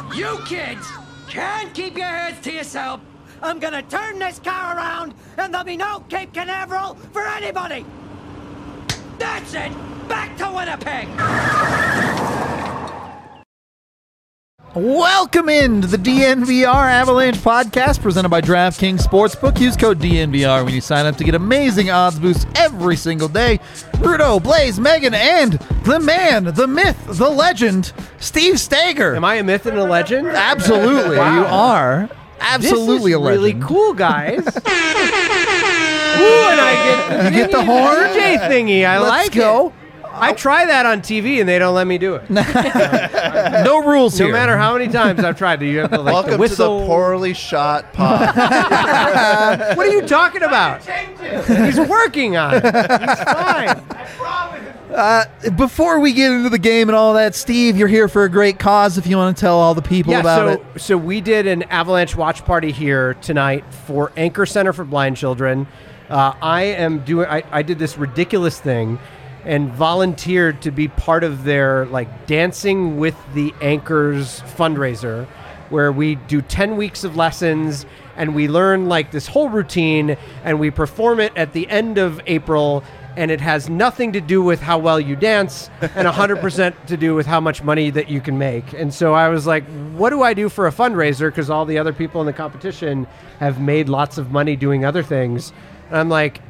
You kids can't keep your heads to yourself. I'm gonna turn this car around, and there'll be no Cape Canaveral for anybody. That's it. Back to Winnipeg. Welcome into the DNVR Avalanche podcast presented by DraftKings Sportsbook. Use code DNVR when you sign up to get amazing odds boosts every single day. Rudo, Blaze, Megan, and the man, the myth, the legend, Steve Stager. Am I a myth and a legend? Absolutely, Wow. you are. Absolutely this is a legend. really cool, guys. Ooh, and I get the horn? DJ thingy. I Let's like go. it. I try that on TV and they don't let me do it. No rules No here. matter how many times I've tried to, you have to like Welcome the whistle. to the poorly shot pod. What are you talking about? He's working on it. He's fine. Before we get into the game and all that, Steve, you're here for a great cause if you want to tell all the people about it. So we did an Avalanche watch party here tonight for Anchor Center for Blind Children. I did this ridiculous thing and volunteered to be part of their like Dancing with the Anchors fundraiser, where we do 10 weeks of lessons and we learn like this whole routine and we perform it at the end of April. And it has nothing to do with how well you dance and 100% to do with how much money that you can make. And so I was like, what do I do for a fundraiser? Because all the other people in the competition have made lots of money doing other things. And I'm like,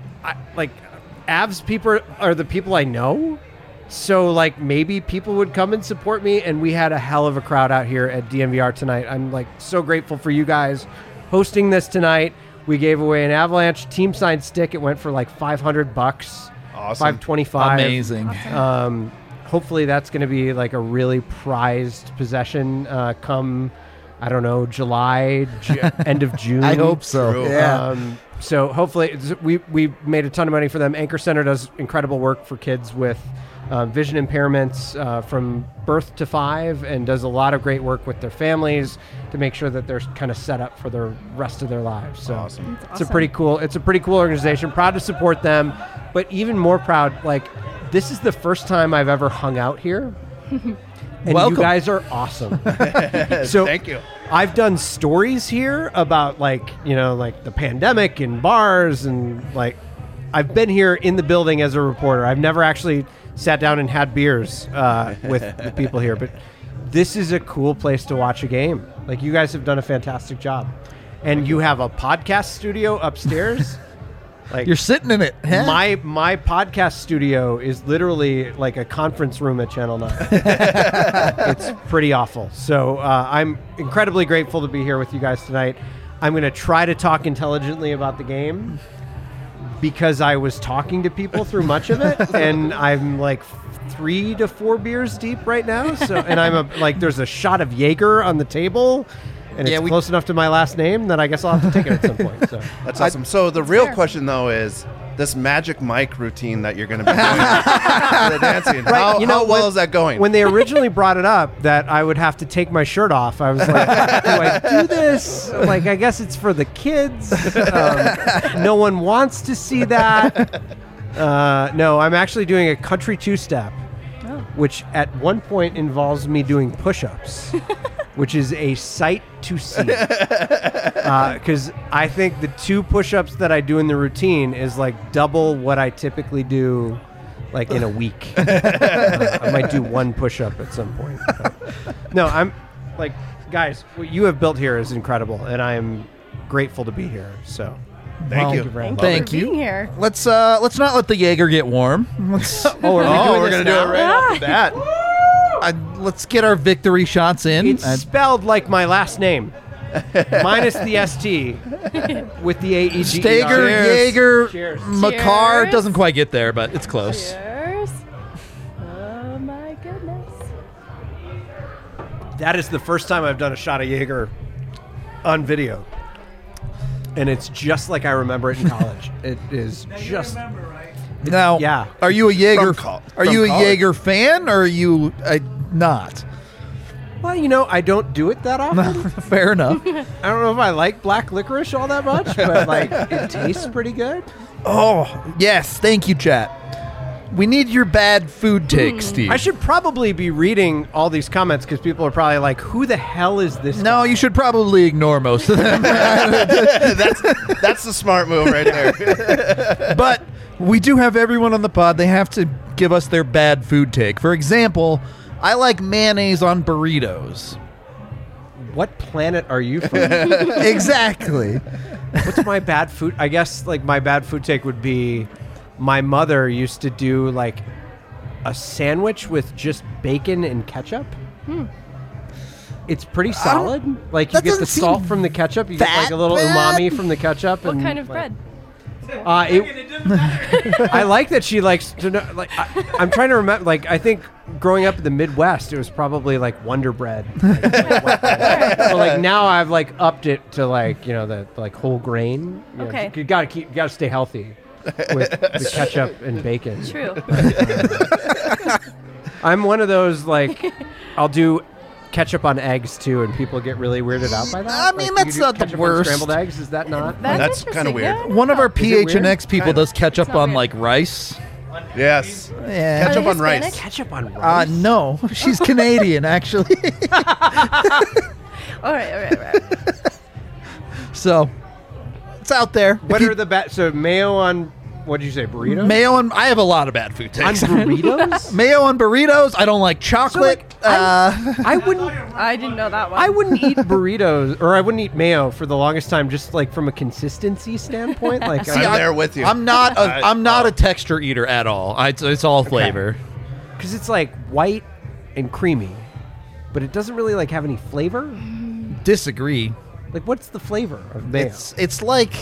Avs people are the people I know. So like maybe people would come and support me. And we had a hell of a crowd out here at DNVR tonight. I'm like so grateful for you guys hosting this tonight. We gave away an Avalanche team signed stick. It went for like $500. Awesome. $525. Amazing. Hopefully that's going to be like a really prized possession come, I don't know, July, end of June. I hope so. True. Yeah. So hopefully we made a ton of money for them. Anchor Center does incredible work for kids with vision impairments from birth to 5, and does a lot of great work with their families to make sure that they're kind of set up for the rest of their lives. So Awesome. it's a pretty cool organization. Proud to support them, but even more proud, like this is the first time I've ever hung out here. And Welcome. you guys are awesome. So Thank you. I've done stories here about like the pandemic and bars, and like I've been here in the building as a reporter. I've never actually sat down and had beers with the people here, but this is a cool place to watch a game. Like you guys have done a fantastic job, and you have a podcast studio upstairs. Like You're sitting in it. Huh? my podcast studio is literally like a conference room at Channel 9. It's pretty awful. So I'm incredibly grateful to be here with you guys tonight. I'm going to try to talk intelligently about the game because I was talking to people through much of it, and I'm like 3 to 4 beers deep right now. So, and there's a shot of Jaeger on the table. And it's close enough to my last name that I guess I'll have to take it at some point. So That's awesome. So the real question, though, is this Magic Mike routine that you're going to be doing, the dancing. Right, How well is that going? When they originally brought it up that I would have to take my shirt off, I was like, do I do this? Like, I guess it's for the kids. No one wants to see that. No, I'm actually doing a country two-step, which at one point involves me doing push-ups. Which is a sight to see. Because I think the 2 push-ups that I do in the routine is like double what I typically do like in a week. I might do 1 push-up at some point. No, I'm like, guys, what you have built here is incredible, and I am grateful to be here. So Thank you. very much. Thank for you. being here. Let's not let the Jaeger get warm. Let's we're going to do it right off the bat. let's get our victory shots in. It's spelled like my last name. Minus the ST with the AEG. Stager, Cheers. Jaeger, Cheers. Makar Cheers. doesn't quite get there, but it's close. Cheers. Oh my goodness. That is the first time I've done a shot of Jaeger on video. And it's just like I remember it in college. It is just... Now, yeah. are you a Jaeger? From Are you a college. Jaeger fan, or are you not? Well, I don't do it that often. Fair enough. I don't know if I like black licorice all that much, but like it tastes pretty good. Oh yes, thank you, chat. We need your bad food take, Steve. I should probably be reading all these comments because people are probably like, "Who the hell is this?" No, guy? you should probably ignore most of them. That's the smart move right there. But we do have everyone on the pod. They have to give us their bad food take. For example, I like mayonnaise on burritos. What planet are you from? Exactly. What's my bad food? I guess like my bad food take would be, my mother used to do like a sandwich with just bacon and ketchup. It's pretty solid. Like you that get the doesn't salt seem from the ketchup. You get like that a little bad. umami from the ketchup. What and, kind of like, bread? I like that she likes to know. Like I'm trying to remember. Like I think growing up in the Midwest, it was probably like Wonder Bread. So like now I've like upped it to like the like whole grain. You know, Okay. you gotta stay healthy with the ketchup and bacon. True. I'm one of those like I'll do ketchup on eggs too, and people get really weirded out by that. I mean, Like, that's you do not the ketchup on worst. Scrambled eggs, is that not? That's kinda interesting, weird. yeah. One of our Is it weird? PHNX people Kinda. does ketchup It's not on weird. like rice. Yes. Yeah. Ketchup Are they on rice. Hispanic? Ketchup on rice. No, she's Canadian actually. All right. So it's out there. What are the bad? So mayo on what did you say? Burritos? mayo on? I have a lot of bad food on takes. burritos? Mayo on burritos. I don't like chocolate. I wouldn't. I didn't know that one. I wouldn't eat burritos, or I wouldn't eat mayo for the longest time, just like from a consistency standpoint. Like, I'm there with you. I'm not a texture eater at all. It's all flavor. because it's like white and creamy, but it doesn't really like have any flavor. Disagree. Like, what's the flavor of mayo? It's like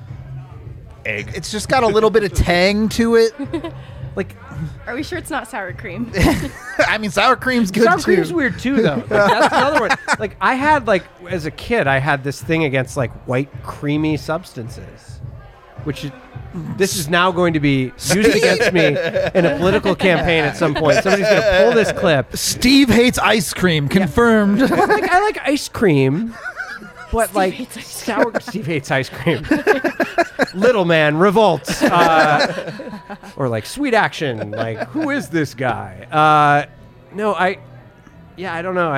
Egg. it's just got a little bit of tang to it. like Are we sure it's not sour cream? I mean, sour cream's good sour too. cream's weird too, though. Like, that's another one. Like I had like as a kid, I had this thing against like white creamy substances, which is. This is now going to be used against me in a political campaign at some point. Somebody's going to pull this clip. Steve hates ice cream. Confirmed. Like I like ice cream, but Steve like hates ice sour. Steve hates ice cream. Little man revolts, or like sweet action. Like who is this guy? No, I don't know.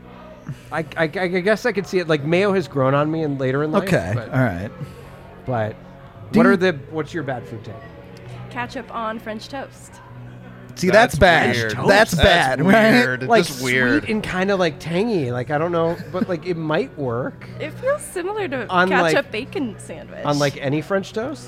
I guess I could see it. Like mayo has grown on me and later in life. Okay. but, All right. but Do what's your bad food take? Ketchup on French toast. See, that's bad. weird. That's bad, right? Weird. Like Just weird. sweet and kind of like tangy. Like I don't know, but like it might work It feels similar to On, ketchup like- bacon sandwich. on like any French toast.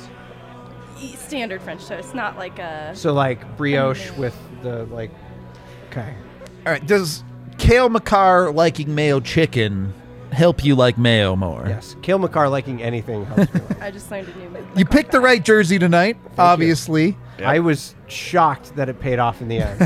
Standard French toast, not like a. So like brioche with the like. Okay. All right. Does Kale McCarr liking mayo chicken help you like mayo more? Yes. Kale McCarr liking anything helps me. I just learned a new. You picked the right jersey tonight, obviously. Yep. I was shocked that it paid off in the end.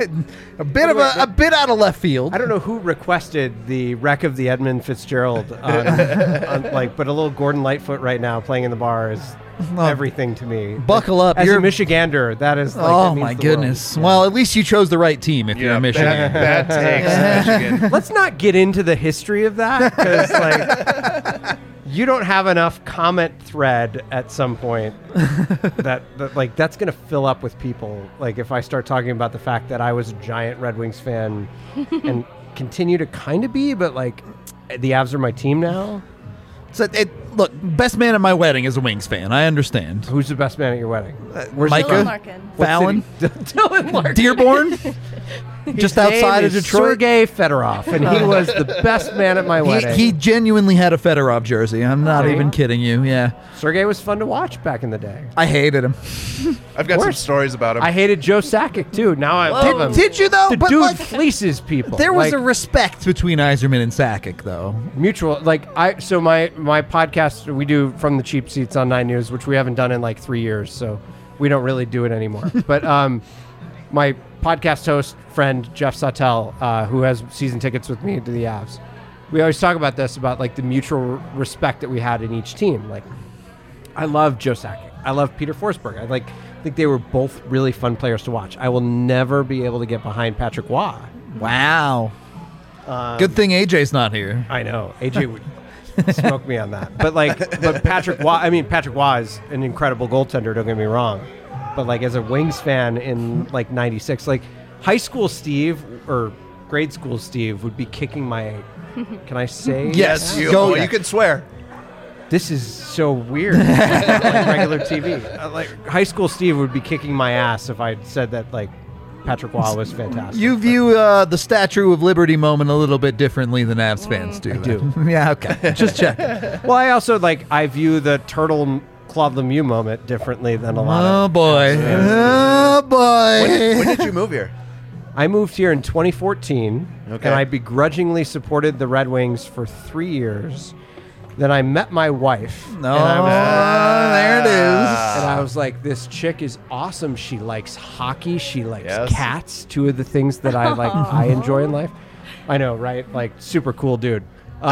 A bit out of left field. I don't know who requested the wreck of the Edmund Fitzgerald, on, but a little Gordon Lightfoot right now playing in the bar is everything to me. Buckle up. As You're a Michigander, that is. Like, oh that means my the world. goodness. Yeah. Well, at least you chose the right team if you're Yeah, a Michigan. bad takes, Michigan. Let's not get into the history of that because like you don't have enough comment thread at some point that like that's gonna fill up with people. Like if I start talking about the fact that I was a giant Red Wings fan and continue to kind of be, but like the Avs are my team now. So look, best man at my wedding is a Wings fan. I understand. Who's the best man at your wedding? Where's Micah? Dylan Larkin. What Fallon? city? Dylan Larkin. Dearborn? Just His outside name of is Detroit. Sergei Fedorov, and he was the best man at my wedding. He genuinely had a Fedorov jersey. I'm not See? even kidding you. Yeah. Sergei was fun to watch back in the day. I hated him. I've got some course. stories about him. I hated Joe Sakic too. Now I love him. Did you though? The But dude like, fleeces people. there was like, a respect between Yzerman and Sakic, though. mutual. Like my podcast we do from the cheap seats on 9 News, which we haven't done in like 3 years, so we don't really do it anymore. But my podcast host friend Jeff Sautel, who has season tickets with me to the Avs, we always talk about this, about like the mutual respect that we had in each team. Like I love Joe Sakic. I love Peter Forsberg. I think they were both really fun players to watch. I will never be able to get behind Patrick Waugh. Wow. Good thing AJ's not here. I know AJ would smoke me on that, but Patrick Waugh. I mean, Patrick Waugh is an incredible goaltender. Don't get me wrong, but like as a Wings fan in like '96, like high school Steve or grade school Steve would be kicking my. Can I say? Yes, You can swear. This is so weird. Like regular TV. Like high school Steve would be kicking my ass if I said that like Patrick Waugh was fantastic. You view the Statue of Liberty moment a little bit differently than Avs fans do. I do. Yeah, okay. Just check. Well, I also I view the Turtle Claude Lemieux moment differently than a lot Oh of. boy. Oh boy. When did you move here? I moved here in 2014, Okay. and I begrudgingly supported the Red Wings for 3 years. Then I met my wife. No, and I was, there it is. and I was like, this chick is awesome. She likes hockey. She likes Yes. cats. Two of the things that I enjoy in life. I know, right? Like super cool dude.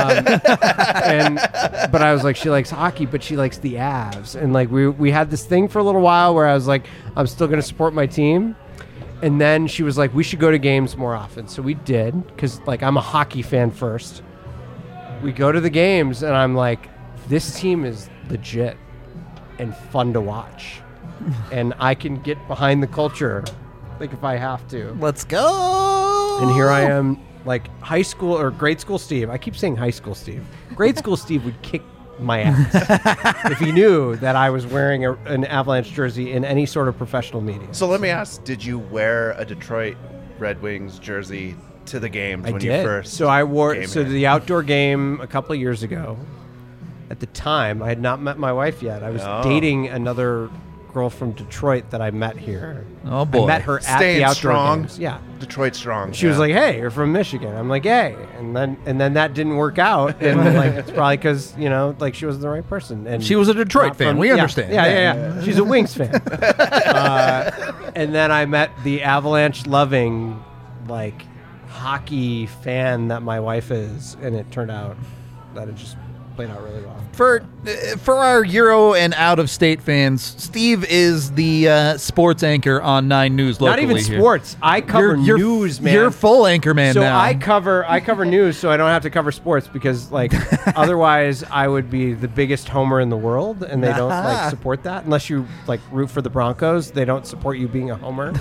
But I was like, she likes hockey, but she likes the Avs. And like we had this thing for a little while where I was like, I'm still going to support my team. And then she was like, we should go to games more often. So we did, because like I'm a hockey fan first. We go to the games, and I'm like, this team is legit and fun to watch. And I can get behind the culture, like if I have to. Let's go. And here I am, like high school or grade school Steve. I keep saying high school Steve. Grade school Steve would kick my ass if he knew that I was wearing an Avalanche jersey in any sort of professional media. So let me ask, did you wear a Detroit Red Wings jersey to the games I when did. you first So I wore came so here? the outdoor game a couple of years ago. At the time, I had not met my wife yet. I was Oh. dating another girl from Detroit that I met here. Oh, boy. I met her at Staying the outdoor strong. games. Yeah. Detroit strong. She was like, "Hey, you're from Michigan." I'm like, "Hey," and then that didn't work out, and like it's probably because like she wasn't the right person. And She was a Detroit not fan. We yeah, understand. Yeah. She's a Wings fan. And then I met the Avalanche loving, like, hockey fan that my wife is, and it turned out that it just played out really well. For our Euro and out-of-state fans, Steve is the sports anchor on 9 News locally. Not even here. sports. I cover news, man. You're full anchor man So now. I cover news, so I don't have to cover sports because like otherwise I would be the biggest homer in the world, and they don't like support that unless you like root for the Broncos. They don't support you being a homer.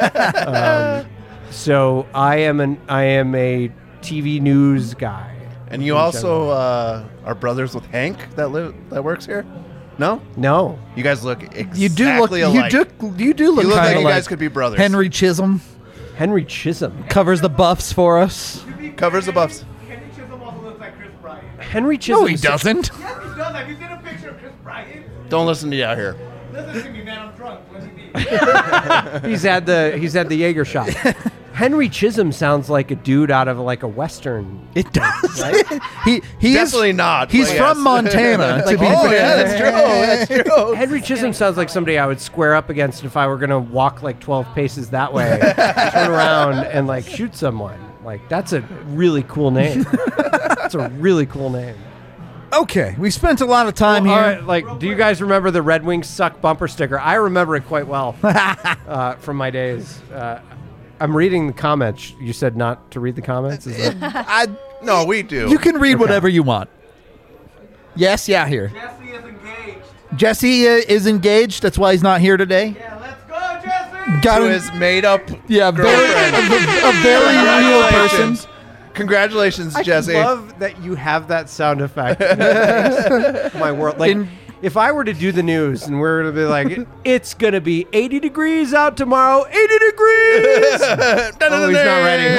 So I am a TV news guy. And you also are brothers with Hank that works here? No? No, You guys look exactly you do look. alike. You do look You look kind like of you guys could be brothers. Henry Chisholm Henry Chisholm. covers the Buffs for us. Covers the Buffs. Henry Chisholm also looks like Chris Bryant. Henry Chisholm. No, he doesn't. Yes, he does. Have you seen a picture of Chris Bryant? Don't listen to you out here. Listen to me, man. I'm drunk. What do you mean? He's had the Jaeger shot. Henry Chisholm sounds like a dude out of like a Western. It does. Right? He Definitely is, not, He's but from yes. Montana. to be Oh, fair. yeah, that's true. That's true. Henry Chisholm sounds like somebody I would square up against if I were gonna walk like 12 paces that way, turn around and like shoot someone. Like that's a really cool name. That's a really cool name. Okay, we spent a lot of time All here. right, like, do you guys remember the Red Wings suck bumper sticker? I remember it quite well from my days. I'm reading the comments. You said not to read the comments. Is that? No, we do. You can read whatever you want. Yes, yeah, here. Jesse is engaged. Jesse is engaged. That's why he's not here today. Yeah, let's go, Jesse. Got to him. his made-up Yeah, girlfriend. a very real person. Congratulations, I Jesse. love that you have that sound effect. My world, like. If I were to do the news and we're going to be like, it's going to be 80 degrees out tomorrow, 80 degrees! Oh, he's not ready.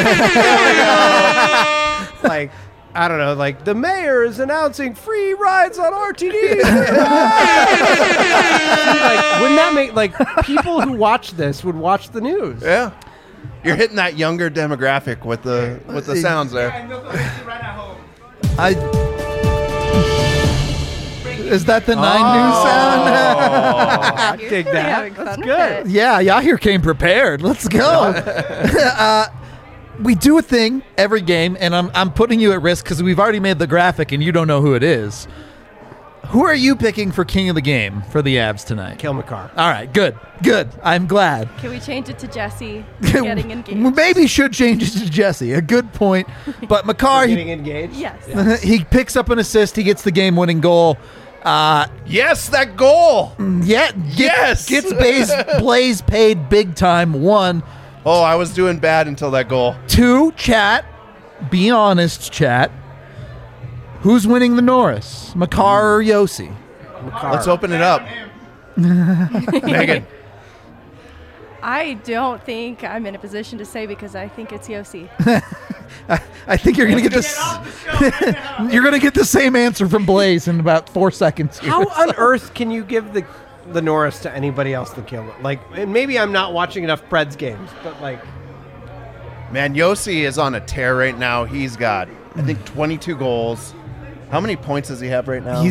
Like, I don't know, like, the mayor is announcing free rides on RTD. Like, wouldn't that make, like, people who watch this would watch the news? Yeah. You're hitting that younger demographic with the sounds there. And this will make you right at home. Is that the 9 News sound? I You're dig really that. having That's fun with good. it. Yeah, y'all here came prepared. Let's go. We do a thing every game, and I'm putting you at risk because we've already made the graphic and you don't know who it is. Who are you picking for king of the game for the Avs tonight? Kill McCarr. All right, good. I'm glad. Can we change it to Jesse getting We engaged? maybe should change it to Jesse. A good point. But McCarr, Getting engaged? Yes. he picks up an assist. He gets the game-winning goal. Yes, that goal. Gets Blaze paid big time. 1. Oh, I was doing bad until that goal. 2, chat. Be honest, chat. Who's winning the Norris? Makar or Yossi? Let's open it up. Megan. I don't think I'm in a position to say because I think it's Yossi. I think you're going to get this. You're going to get the same answer from Blaze in about 4 seconds. Here. How on earth can you give the Norris to anybody else than Cale? Like, and maybe I'm not watching enough Preds games, but like, Man, Yossi is on a tear right now. He's got, I think, 22 goals. How many points does he have right now?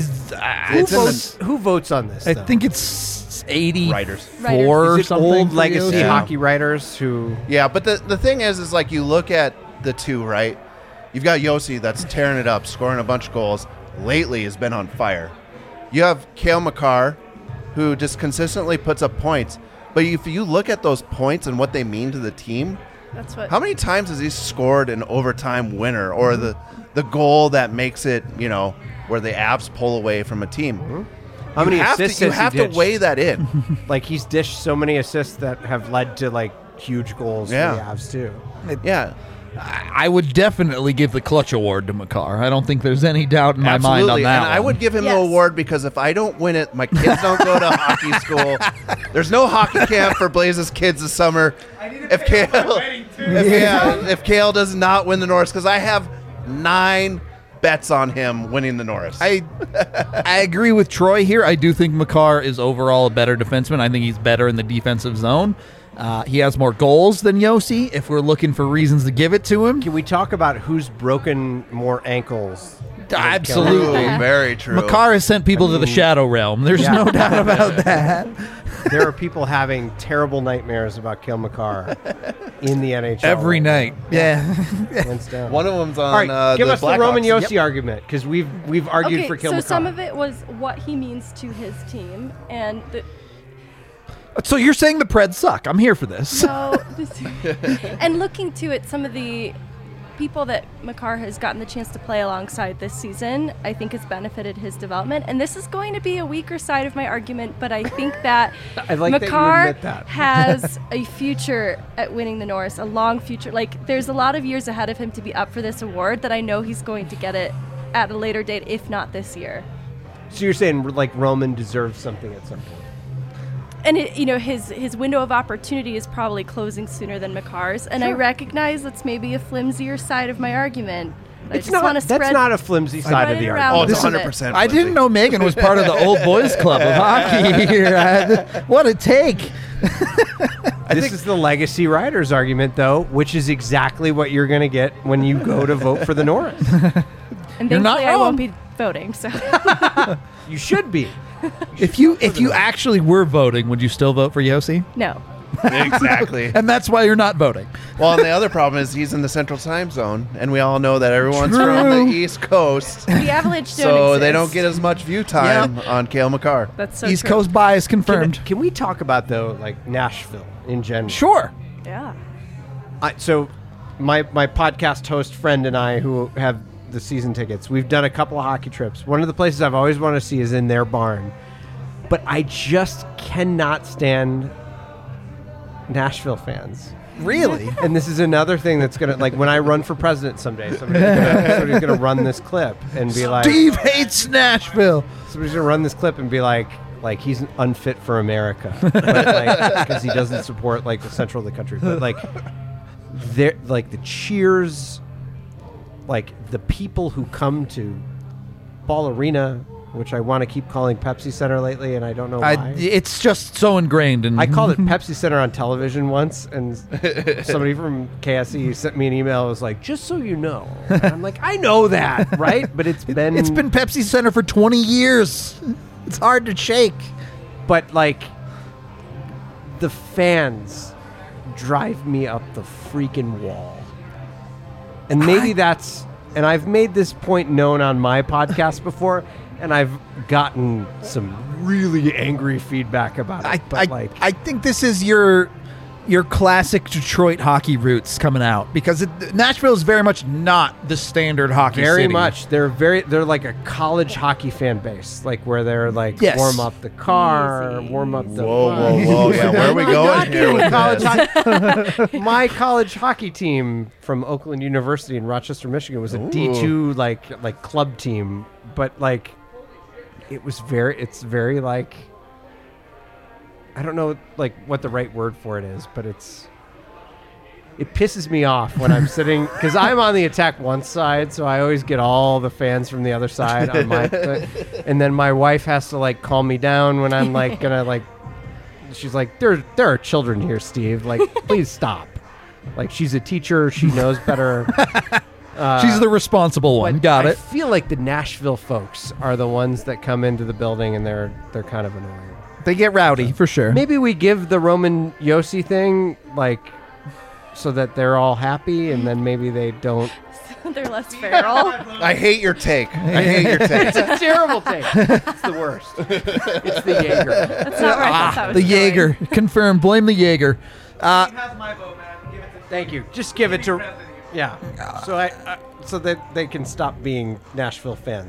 Who votes on this? I though? think it's 84 Writers. or Is it something. old for legacy Yossi. hockey writers who. Yeah, but the thing is like you look at the two, right? You've got Yossi that's tearing it up, scoring a bunch of goals. Lately has been on fire. You have Cale Makar, who just consistently puts up points. But if you look at those points and what they mean to the team, That's what. how many times has he scored an overtime winner or the goal that makes it, where the Avs pull away from a team? How many assists You has he have to dished? weigh that in. Like, he's dished so many assists that have led to like huge goals Yeah. for the Avs too. Yeah. I would definitely give the clutch award to Makar. I don't think there's any doubt in my mind on Absolutely. that. And I one. would give him the Yes. award because if I don't win it, my kids don't go to hockey school. There's no hockey camp for Blaze's kids this summer. If Cale, if Cale does not win the Norris, because I have 9 bets on him winning the Norris. I agree with Troy here. I do think Makar is overall a better defenseman. I think he's better in the defensive zone. He has more goals than Yossi, if we're looking for reasons to give it to him. Can we talk about who's broken more ankles? Absolutely. True, very true. Makar has sent people to the Shadow Realm. There's Yeah. no doubt about that. There are people having terrible nightmares about Cale Makar in the NHL Every right night. Yeah. now. Hands down. One of them's on All right, give the us the Blackhawks. Roman Yossi argument because we've argued Okay, for Cale so Makar. some of it was what he means to his team, and So you're saying the Preds suck. I'm here for this. and looking to it, some of the people that Makar has gotten the chance to play alongside this season, I think has benefited his development. And this is going to be a weaker side of my argument, but I think that I like that you Makar admit that. has a future at winning the Norris, a long future. Like, there's a lot of years ahead of him to be up for this award that I know he's going to get it at a later date, if not this year. So you're saying like Roman deserves something at some point? And his window of opportunity is probably closing sooner than Makar's, and I recognize that's maybe a flimsier side of my argument. But It's I just want to not. That's spread. not a flimsy side of it the around argument. Oh, it's a little bit. 100%. I didn't know Megan was part of the old boys club of hockey here. What a take. This is the legacy riders argument, though, which is exactly what you're going to get when you go to vote for the Norris. And You're not thankfully, I wrong. won't be voting. So You should be. If you actually were voting, would you still vote for Yossi? no. Exactly. And that's why you're not voting. Well, and the other problem is he's in the Central Time Zone, and we all know that everyone's True. from the East Coast, The Avalanche don't so they exist. don't get as much view time on Cale Makar. That's so East true. Coast bias confirmed. Can we talk about, though, like Nashville in general? Sure. Yeah. So my podcast host friend and I, who have the season tickets, we've done a couple of hockey trips. One of the places I've always wanted to see is in their barn. But I just cannot stand Nashville fans. Really? And this is another thing that's going to, like, when I run for president someday, somebody's going to run this clip and be like, Steve hates Nashville. somebody's going to run this clip and be like he's unfit for America, because he doesn't support like the central of the country. But like, they're like the cheers, like the people who come to Ball Arena, which I want to keep calling Pepsi Center lately, and I don't know why. It's just so ingrained. And I called it Pepsi Center on television once, and somebody from KSE sent me an email. It was like, just so you know. And I'm like, I know that, right? But it's been Pepsi Center for 20 years. It's hard to shake. But like, the fans drive me up the freaking wall. And maybe that's, and I've made this point known on my podcast before, and I've gotten some really angry feedback about it. I think this is your your classic Detroit hockey roots coming out, because Nashville is very much not the standard hockey Very city. much. They're like a college hockey fan base, like where they're like Yes. warm up the car, Easy. warm up the. Whoa. Yeah, where are we going Not here kidding. with College this? My college hockey team from Oakland University in Rochester, Michigan, was a D2 like club team, but like it's very like, I don't know like what the right word for it is, but it pisses me off when I'm sitting, because I'm on the Attack One side, so I always get all the fans from the other side on my and then my wife has to like calm me down when I'm like gonna like, she's like, there are children here, Steve, like please stop. Like, she's a teacher, she knows better. She's the responsible one. But Got I it. feel like the Nashville folks are the ones that come into the building and they're kind of annoying. They get rowdy for sure. Maybe we give the Roman Yossi thing like so that they're all happy, and then maybe they don't. They're less feral. I hate your take. I hate your take. It's a terrible take. It's the worst. It's the Jaeger. That's not where I thought that was The going. Jaeger. Confirmed. Blame the Jaeger. Steve has my vote, man. Give it to Thank you. Just give it to. President. Yeah. So so that they can stop being Nashville fans.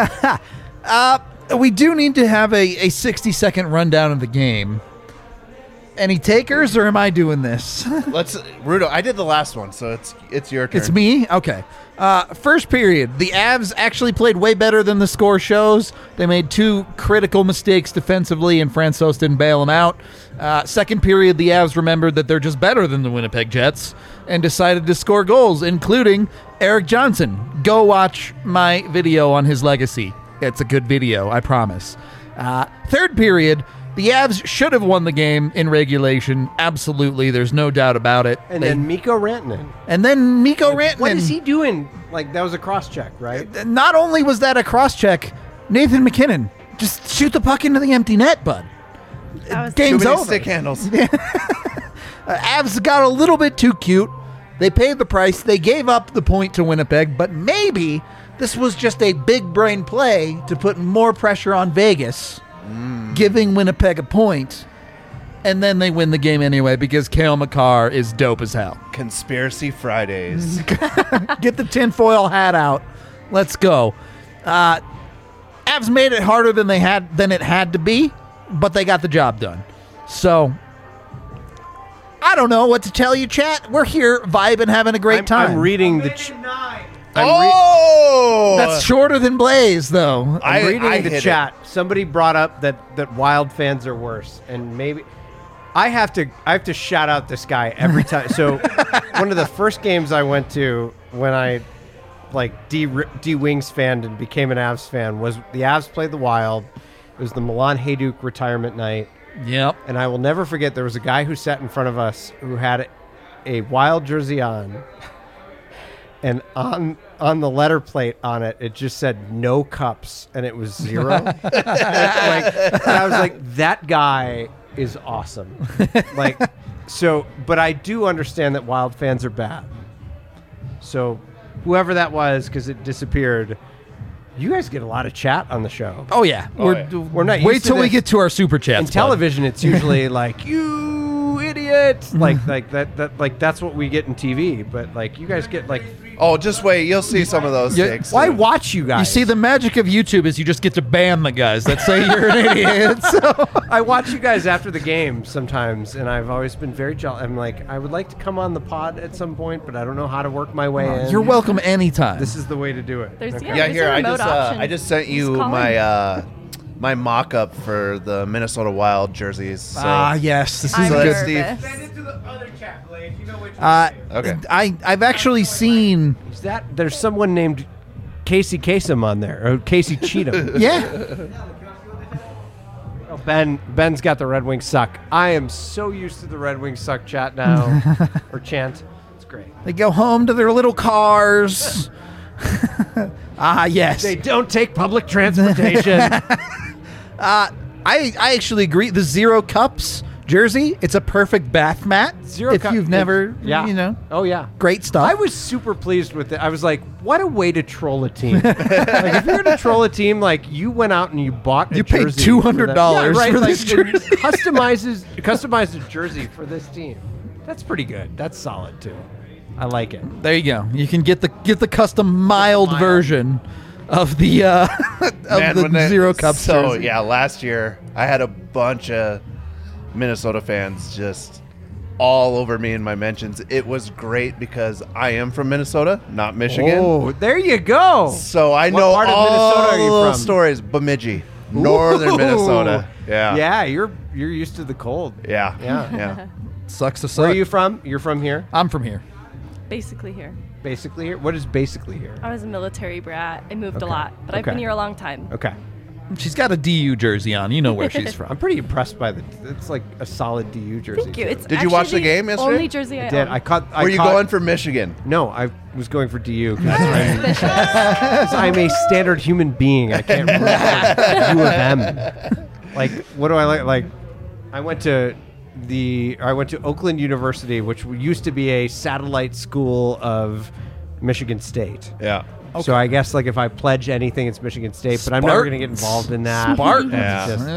We do need to have a 60-second rundown of the game. Any takers, or am I doing this? Let's, Rudo. I did the last one, so it's your turn. It's me? Okay. First period, the Avs actually played way better than the score shows. They made 2 critical mistakes defensively, and Francois didn't bail them out. Second period, the Avs remembered that they're just better than the Winnipeg Jets and decided to score goals, including Eric Johnson. Go watch my video on his legacy. It's a good video, I promise. Third period, the Avs should have won the game in regulation. Absolutely, there's no doubt about it. And then Mikko Rantanen. Rantanen. What is he doing? Like, that was a cross-check, right? Not only was that a cross-check, Nathan McKinnon, just shoot the puck into the empty net, bud. That was Too Game's many over. stick handles. Avs got a little bit too cute. They paid the price. They gave up the point to Winnipeg, but maybe this was just a big brain play to put more pressure on Vegas, giving Winnipeg a point, and then they win the game anyway because Cale Makar is dope as hell. Conspiracy Fridays. Get the tinfoil hat out. Let's go. Avs made it harder than it had to be, but they got the job done. So I don't know what to tell you, chat. We're here vibing, having a great time. I'm reading the. Maybe 9. That's shorter than Blaze, though. I'm reading I the hit chat. Somebody brought up that Wild fans are worse, and maybe I have to shout out this guy every time. So one of the first games I went to when I like D Wings fan and became an Avs fan was the Avs played the Wild. It was the Milan Hajduk retirement night, Yep. and I will never forget. There was a guy who sat in front of us who had a Wild jersey on. And on the letter plate on it, it just said no cups, and it was 0. And I was like, that guy is awesome. But I do understand that Wild fans are bad. So whoever that was, because it disappeared, you guys get a lot of chat on the show. Oh, yeah. We're not Wait used to till we this. get to our super chats. In bud. television, it's usually like, you idiot. Like that like that's what we get in TV. But like you guys get like, Oh, just wait. You'll see some of those Yeah, takes. why too. watch you guys? You see, the magic of YouTube is you just get to ban the guys that say you're an idiot. So. I watch you guys after the game sometimes, and I've always been very jealous. I'm like, I would like to come on the pod at some point, but I don't know how to work my way in. You're welcome anytime. This is the way to do it. There's- Okay. yeah. Yeah, there's here a I remote option. just sent you Just call my my mock-up for the Minnesota Wild jerseys. So. Yes. This is I'm a So good. that's Steve. nervous. Send it to the other chat, Blade. You know which one. Okay. I've actually seen. Is that there's someone named Casey Kasem on there, or Casey Cheatham? Yeah. Oh, Ben's got the Red Wings suck. I am so used to the Red Wings suck chat now, or chant. It's great. They go home to their little cars. Yes. They don't take public transportation. I actually agree. The 0 cups jersey, it's a perfect bath mat. If you've never, yeah. Oh yeah. great stuff. I was super pleased with it. I was like, what a way to troll a team. Like, if you're going to troll a team, like, you went out and you bought a You paid jersey. $200 Yeah, right. for Like, this jersey. customized a jersey for this team. That's pretty good. That's solid too. I like it. There you go. You can get the custom mild version of the Zero Cup So jersey. yeah, last year I had a bunch of Minnesota fans just all over me in my mentions. It was great because I am from Minnesota, not Michigan. Oh, there you go. So I What know part of all Minnesota are you those from? stories. Bemidji, northern Ooh. Minnesota. Yeah. Yeah, you're used to the cold. Yeah. Yeah. Yeah. Sucks to suck. Where are you from? You're from here? I'm from here. Basically here. Basically here? What is basically here? I was a military brat. I moved Okay. a lot, but I've Okay. been here a long time. Okay. She's got a DU jersey on. You know where she's I'm from. pretty impressed by it's like a solid DU jersey. Thank you. too. It's Did you watch actually the game yesterday? Only jersey I I did. own. Were you going for Michigan? No, I was going for DU because I'm a standard human being. I can't root for U of M. Like, what do I like? Like, I went to Oakland University, which used to be a satellite school of Michigan State. Yeah. So I guess like if I pledge anything, it's Michigan State, but I'm never going to get involved in that. Spartans. It's Yeah. just-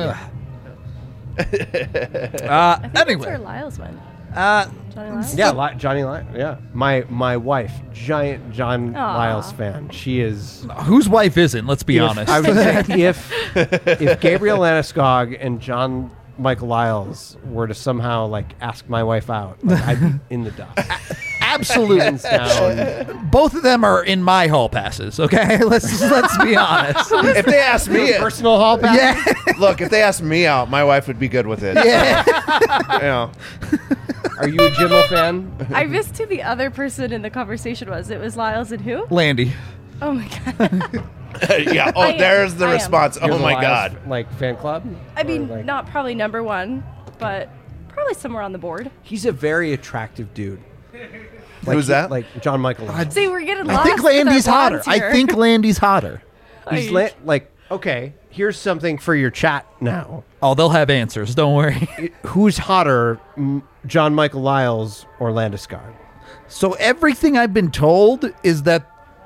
I think that's where Lyles went. Johnny Lyles? Yeah, Johnny Lyles. Yeah, my wife, giant John Aw. Lyles fan. She is. Whose wife isn't? Let's be honest. I would say if Gabriel Landeskog and John Michael Lyles were to somehow like ask my wife out, like, I'd be in the dust. Absolutely. Hands down. Both of them are in my hall passes. Okay, let's be honest. If they asked me, Personal hall pass. Yeah. look, if they asked me out, my wife would be good with it. Yeah. You know. Are you a Jimmel fan? I missed who the other person in the conversation was. It was Lyles and who? Landy. Oh my god. Yeah. Oh, I am. there's the I am. response. You're Oh the my Lyles, God. Like fan club? I Or, mean, like- not probably number one, but probably somewhere on the board. He's a very attractive dude. Who's that? Like John Michael. Lyles. See, we're getting lost. I think with our Landy's hotter. blondes I here. think Landy's hotter. He's like okay. Here's something for your chat now. Oh, they'll have answers. Don't worry. Who's hotter, John Michael Lyles or Landeskog? So everything I've been told is that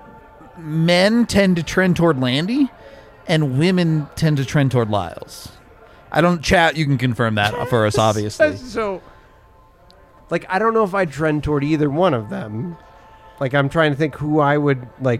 men tend to trend toward Landy, and women tend to trend toward Lyles. I don't chat. You can confirm that for us, obviously. So, like, I don't know if I trend toward either one of them. Like, I'm trying to think who I would like.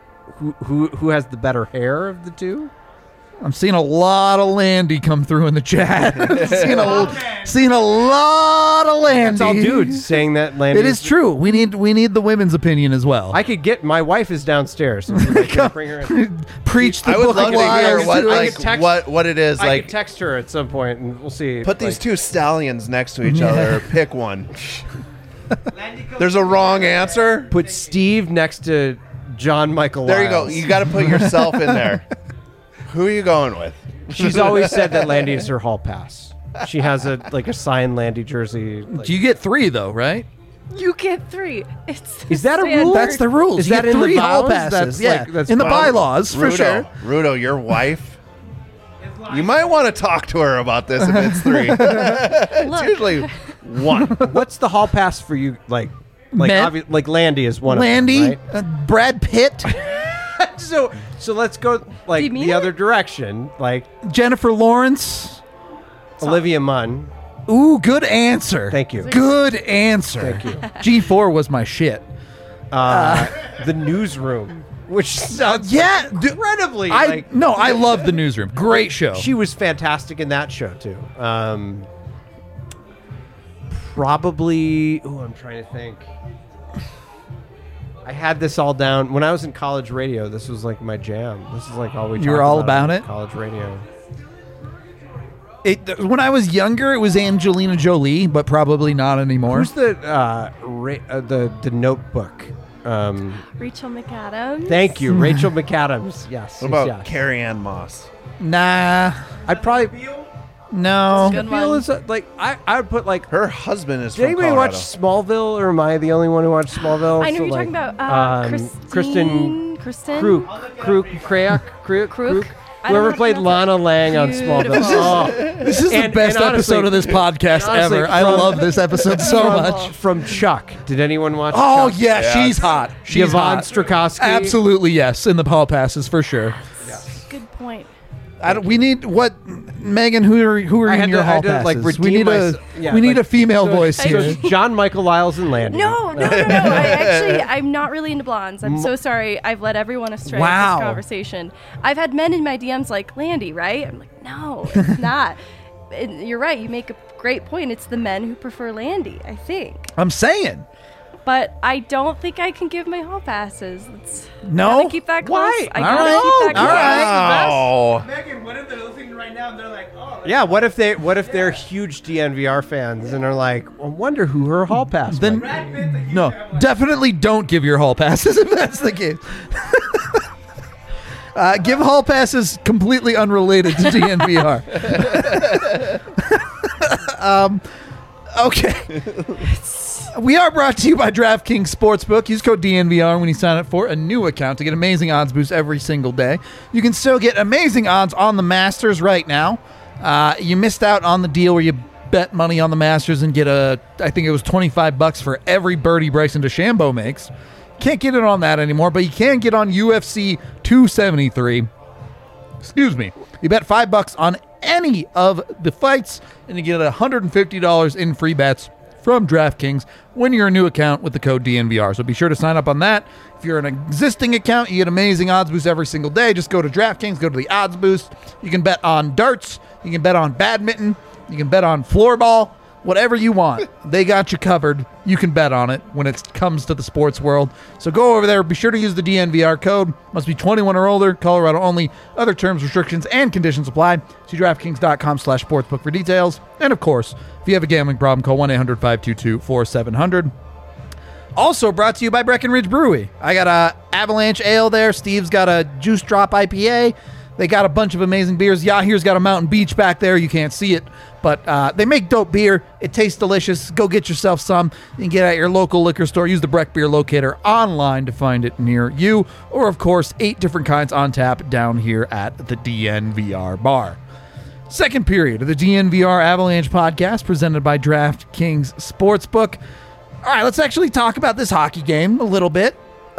Who has the better hair of the two? I'm seeing a lot of Landy come through in the chat. seeing a lot of Landy. It's all dudes saying that. Landy It is true. We need the women's opinion as well. I could get my wife is downstairs. So I can bring her in. Preach the I would book love of to hear lies. what I like could text- what it is I like. could text her at some point, and we'll see. Put these like, two stallions next to each other. Pick one. There's a wrong answer. Put Steve next to John Michael. There you go. Lyles. You got to put yourself in there. Who are you going with? She's always said that Landy is her hall pass. She has a signed Landy jersey. like- Do you get 3 though, right? You get 3. It's the Is that a rule? standard. That's the rules. Is You that get in the 3 hall vows? passes. That's yeah, like- that's in the fine. bylaws for sure. Rudo, your wife. You might want to talk to her about this if it's 3. It's Look. usually 1. What's the hall pass for you? Like Men? like Landy is one Landy, of them, Brad Pitt, right? So let's go like Do you mean the it? other direction, like Jennifer Lawrence. Olivia Munn. Ooh, good answer. Thank you. Good answer. Thank you. G4 was my shit. The Newsroom, which sounds Yeah, incredibly I like no, I love the Newsroom. Great show. she was fantastic in that show too. Probably. Oh, I'm trying to think. I had this all down when I was in college radio. This was like my jam. This is like all we. You were talked all about in it? College radio. When I was younger, it was Angelina Jolie, but probably not anymore. Who's the the Notebook? Rachel McAdams. Thank you, Rachel McAdams. Yes. What about yes. Carrie Ann Moss? Nah, I'd probably. no. Good Feel one. is like I would put like. Her husband is Did from anybody Colorado. watch Smallville, or am I the only one who watched Smallville? I know So, you're like, talking about Kristen Kristen. Kruk. I don't know Whoever how to played pronounce Lana Lang on Beautiful. Smallville. Oh. This is the And- best and honestly- episode of this podcast honestly, ever. I from- love this episode so much. From Chuck. Did anyone watch Oh Chuck? yeah, Yeah. she's hot. She's Yvonne hot. Strakowski. Absolutely yes, in the hall passes for sure. Good point. We need what Megan, who are I in had your to- I hall had to, passes? like, we redeem need myself. Yeah, we need like- a female so- voice so here. it's John Michael Lyles and Landy. No. I'm not really into blondes. I'm so sorry. I've led everyone astray with Wow. this conversation. I've had men in my DMs like, Landy, right? I'm like, no, it's not. And you're right. You make a great point. It's the men who prefer Landy, I think. I'm saying. But I don't think I can give my hall passes. No? Gotta keep that close. Why? I All gotta right. keep that All close. right. Wow. Megan, what if they're listening right now and they're like, oh, Yeah, what if they're huge DNVR fans and they're like, I wonder who her hall pass Then Brad Pitt's a huge no, Avalanche. definitely don't give your hall passes if that's the case. Give hall passes completely unrelated to DNVR. Okay. We are brought to you by DraftKings Sportsbook. Use code DNVR when you sign up for a new account to get amazing odds boosts every single day. You can still get amazing odds on the Masters right now. You missed out on the deal where you bet money on the Masters and get I think it was $25 for every birdie Bryson DeChambeau makes. Can't get it on that anymore, but you can get on UFC 273. Excuse me. You bet $5 on any of the fights, and you get $150 in free bets from DraftKings when you're a new account with the code DNVR. So be sure to sign up on that. If you're an existing account, you get amazing odds boosts every single day. Just go to DraftKings, go to the odds boost. You can bet on darts. You can bet on badminton. You can bet on floorball. Whatever you want, they got you covered. You can bet on it when it comes to the sports world. So go over there. Be sure to use the DNVR code. Must be 21 or older. Colorado only. Other terms, restrictions, and conditions apply. See DraftKings.com/sportsbook for details. And of course, if you have a gambling problem, call 1-800-522-4700. Also brought to you by Breckenridge Brewery. I got a Avalanche Ale there. Steve's got a Juice Drop IPA. They got a bunch of amazing beers. Yahir's got a Mountain Beach back there. You can't see it, but they make dope beer. It tastes delicious. Go get yourself some. You can get it at your local liquor store. Use the Breck Beer Locator online to find it near you. Or, of course, 8 different kinds on tap down here at the DNVR bar. Second period of the DNVR Avalanche podcast presented by DraftKings Sportsbook. All right, let's actually talk about this hockey game a little bit.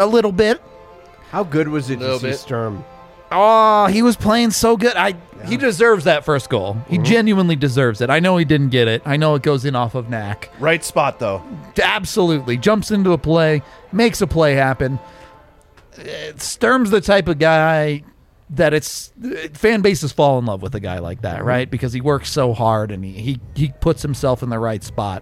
How good was it to Little see bit. Sturm? Oh, he was playing so good. He deserves that first goal. He genuinely deserves it. I know he didn't get it. I know it goes in off of Knack. Right spot, though. Absolutely. Jumps into a play, makes a play happen. Sturm's the type of guy that fan bases fall in love with a guy like that, right? Because he works so hard and he puts himself in the right spot.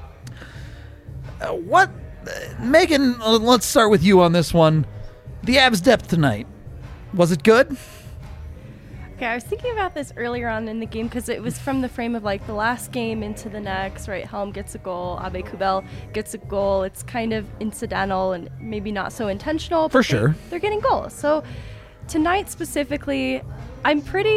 Megan, let's start with you on this one. The Avs depth tonight. Was it good? Okay, I was thinking about this earlier on in the game because it was from the frame of like the last game into the next, right? Helm gets a goal, Abe Kubel gets a goal. It's kind of incidental and maybe not so intentional. For but sure. They're getting goals. So tonight specifically, I'm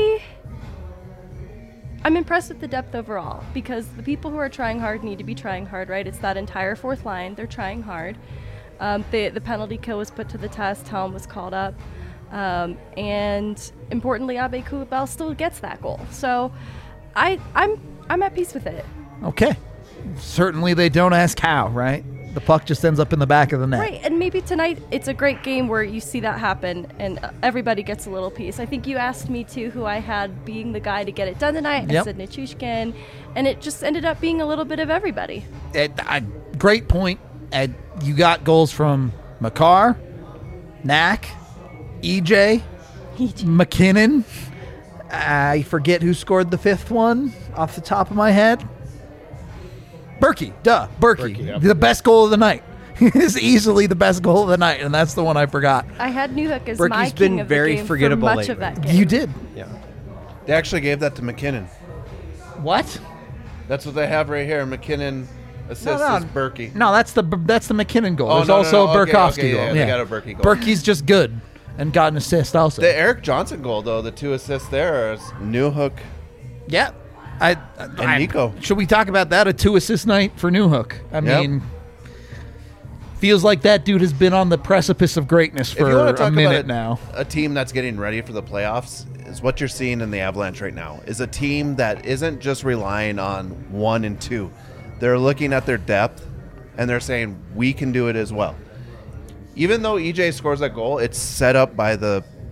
impressed with the depth overall because the people who are trying hard need to be trying hard, right? It's that entire fourth line. They're trying hard. The penalty kill was put to the test. Helm was called up. And importantly, Abe Kubel still gets that goal. So I'm at peace with it. Okay. Certainly they don't ask how, right? The puck just ends up in the back of the net. Right, and maybe tonight it's a great game where you see that happen and everybody gets a little piece. I think you asked me too who I had being the guy to get it done tonight. Yep. I said Nichushkin, and it just ended up being a little bit of everybody. Great point. You got goals from Makar, Knack, EJ, McKinnon. I forget who scored the fifth one off the top of my head. Berkey. Berkey, yep. The best goal of the night. Is easily the best goal of the night, and that's the one I forgot. I had Newhook as Berkey's my been king of very the game forgettable for much of lately. that game. You did. Yeah. They actually gave that to McKinnon. What? That's what they have right here. McKinnon assists No. is Berkey. No, that's the McKinnon goal. Oh, There's no, also no. a Okay, Burkowski okay, goal. yeah, they got a Berkey goal. Berkey's just good and got an assist also. The Eric Johnson goal, though, the 2 assists there is Newhook Yeah. and Nico. Should we talk about that? A 2-assist night for Newhook. I Yep. mean, feels like that dude has been on the precipice of greatness If you for want to a talk minute about now. a team that's getting ready for the playoffs, is what you're seeing in the Avalanche right now. Is a team that isn't just relying on 1 and 2. They're looking at their depth, and they're saying, we can do it as well. Even though EJ scores that goal, it's set up by the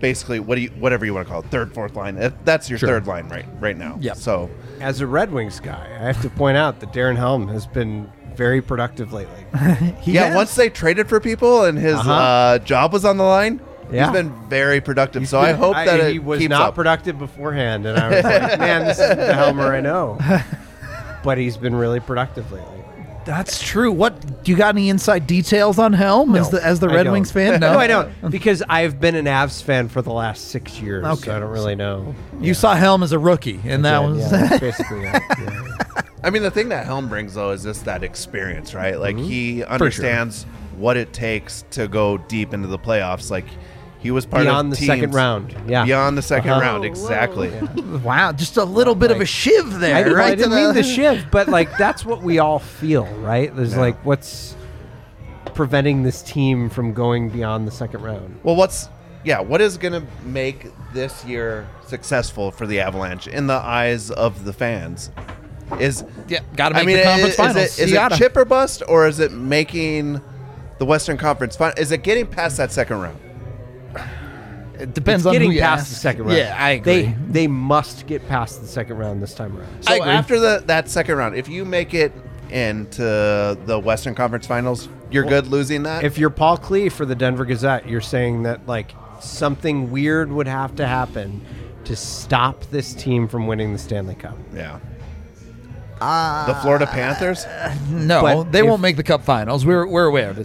basically whatever you want to call it, third, fourth line. That's your third line right now. Yep. So As a Red Wings guy, I have to point out that Darren Helm has been very productive lately. once they traded for people and his job was on the line, Yeah. he's been very productive. So I hope that he was keeps not up. productive beforehand, and I was like, man, this isn't the Helmer I know. But he's been really productive lately. That's true. What do you got? Any inside details on Helm as the I Red don't. Wings fan? No, I don't, because I've been an Avs fan for the last 6 years. Okay. So I don't really know. You saw Helm as a rookie, and that was that's basically it. Yeah. I mean, the thing that Helm brings though is just that experience, right? Like he understands what it takes to go deep into the playoffs. Like he was part Beyond of the teams second round. Yeah. Beyond the second round, Whoa. exactly. wow, just a little bit of a shiv there, I right? didn't mean the shiv, but like that's what we all feel, right? There's like what's preventing this team from going beyond the second round. Well, what is going to make this year successful for the Avalanche in the eyes of the fans? Got to make the conference finals. Is it chip or bust, or is it making the Western Conference final? Is it getting past that second round? It depends It's on getting who you past ask. the second round. Yeah, I agree. They must get past the second round this time around. I So agree. after that second round, if you make it into the Western Conference finals, you're good losing that? If you're Paul Klee for the Denver Gazette, you're saying that like something weird would have to happen to stop this team from winning the Stanley Cup. yeah. The Florida Panthers? No, But they if- won't make the Cup Finals. We're aware of this.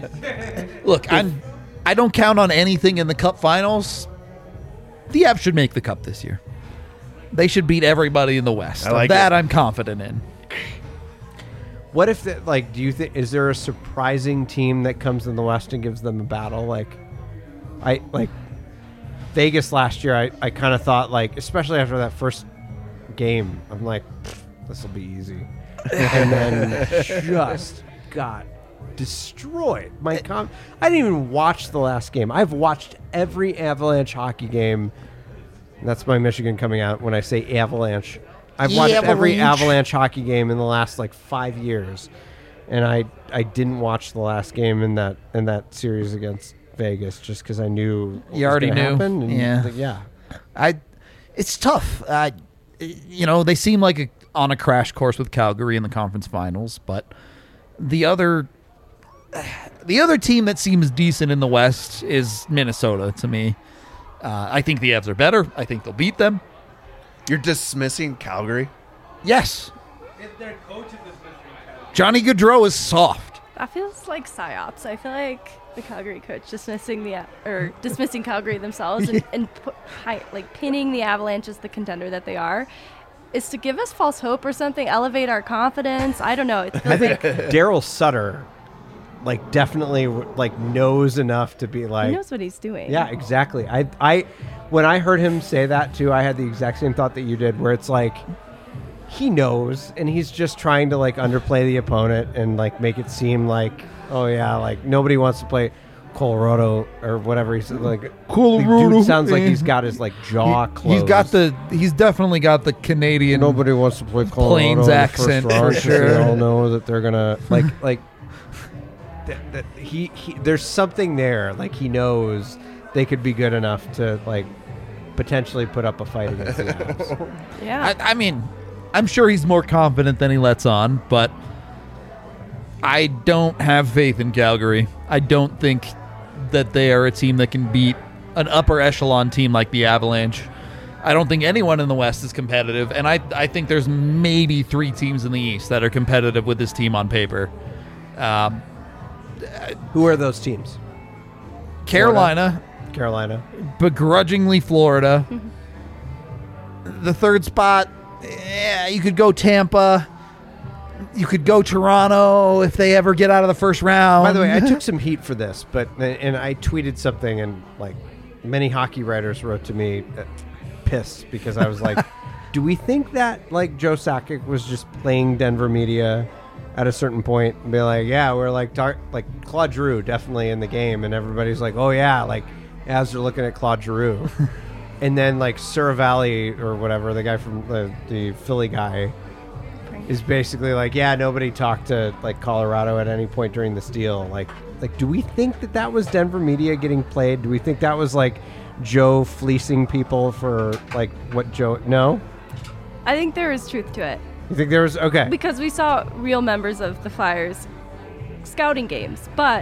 I don't count on anything in the Cup Finals. The Avs should make the Cup this year. They should beat everybody in the West. I like that it. I'm confident in. What if do you think is there a surprising team that comes in the West and gives them a battle? Like Vegas last year, I kind of thought like, especially after that first game, I'm like, this will be easy, and then just got destroyed. I didn't even watch the last game. I've watched every Avalanche hockey game. That's my Michigan coming out when I say Avalanche. I've watched every Avalanche hockey game in the last like 5 years, and I didn't watch the last game in that series against Vegas just because I knew what You was already gonna knew. happen, and Yeah. yeah. It's tough. They seem like on a crash course with Calgary in the conference finals, but the other team that seems decent in the West is Minnesota to me. I think the Avs are better. I think they'll beat them. You're dismissing Calgary? Yes, If their coach is dismissing Johnny Gaudreau is soft. That feels like psyops. I feel like the Calgary coach dismissing Calgary themselves and pinning the Avalanche as the contender that they are is to give us false hope or something, elevate our confidence. I don't know. It feels I think like Daryl Sutter definitely knows enough to be like he knows what he's doing. Yeah, exactly. I when I heard him say that too, I had the exact same thought that you did, where it's like he knows and he's just trying to underplay the opponent and make it seem like, oh yeah, nobody wants to play Colorado or whatever he said. Colorado. Dude sounds like he's got his jaw closed. He's definitely got the Canadian. Nobody wants to play Colorado Plains in the accent first round for 'cause They sure. all know that they're gonna he there's something there. He knows they could be good enough to potentially put up a fight against the Avs. Yeah. I mean, I'm sure he's more confident than he lets on, but I don't have faith in Calgary. I don't think that they are a team that can beat an upper echelon team like the Avalanche. I don't think anyone in the West is competitive, and I think there's maybe 3 teams in the East that are competitive with this team on paper. Who are those teams? Carolina, begrudgingly Florida. The third spot, you could go Tampa. You could go Toronto if they ever get out of the first round. By the way, I took some heat for this, and I tweeted something, and many hockey writers wrote to me pissed because I was like, do we think that Joe Sakic was just playing Denver media at a certain point and be like, yeah, we're Claude Giroux definitely in the game, and everybody's like, oh yeah, as they're looking at Claude Giroux. And then Suravalli or whatever, the guy from the Philly guy, is basically yeah, nobody talked to Colorado at any point during this deal. Do we think that was Denver media getting played? Do we think that was Joe fleecing people for like what Joe? No, I think there is truth to it you think there was okay? because we saw real members of the Flyers scouting games, but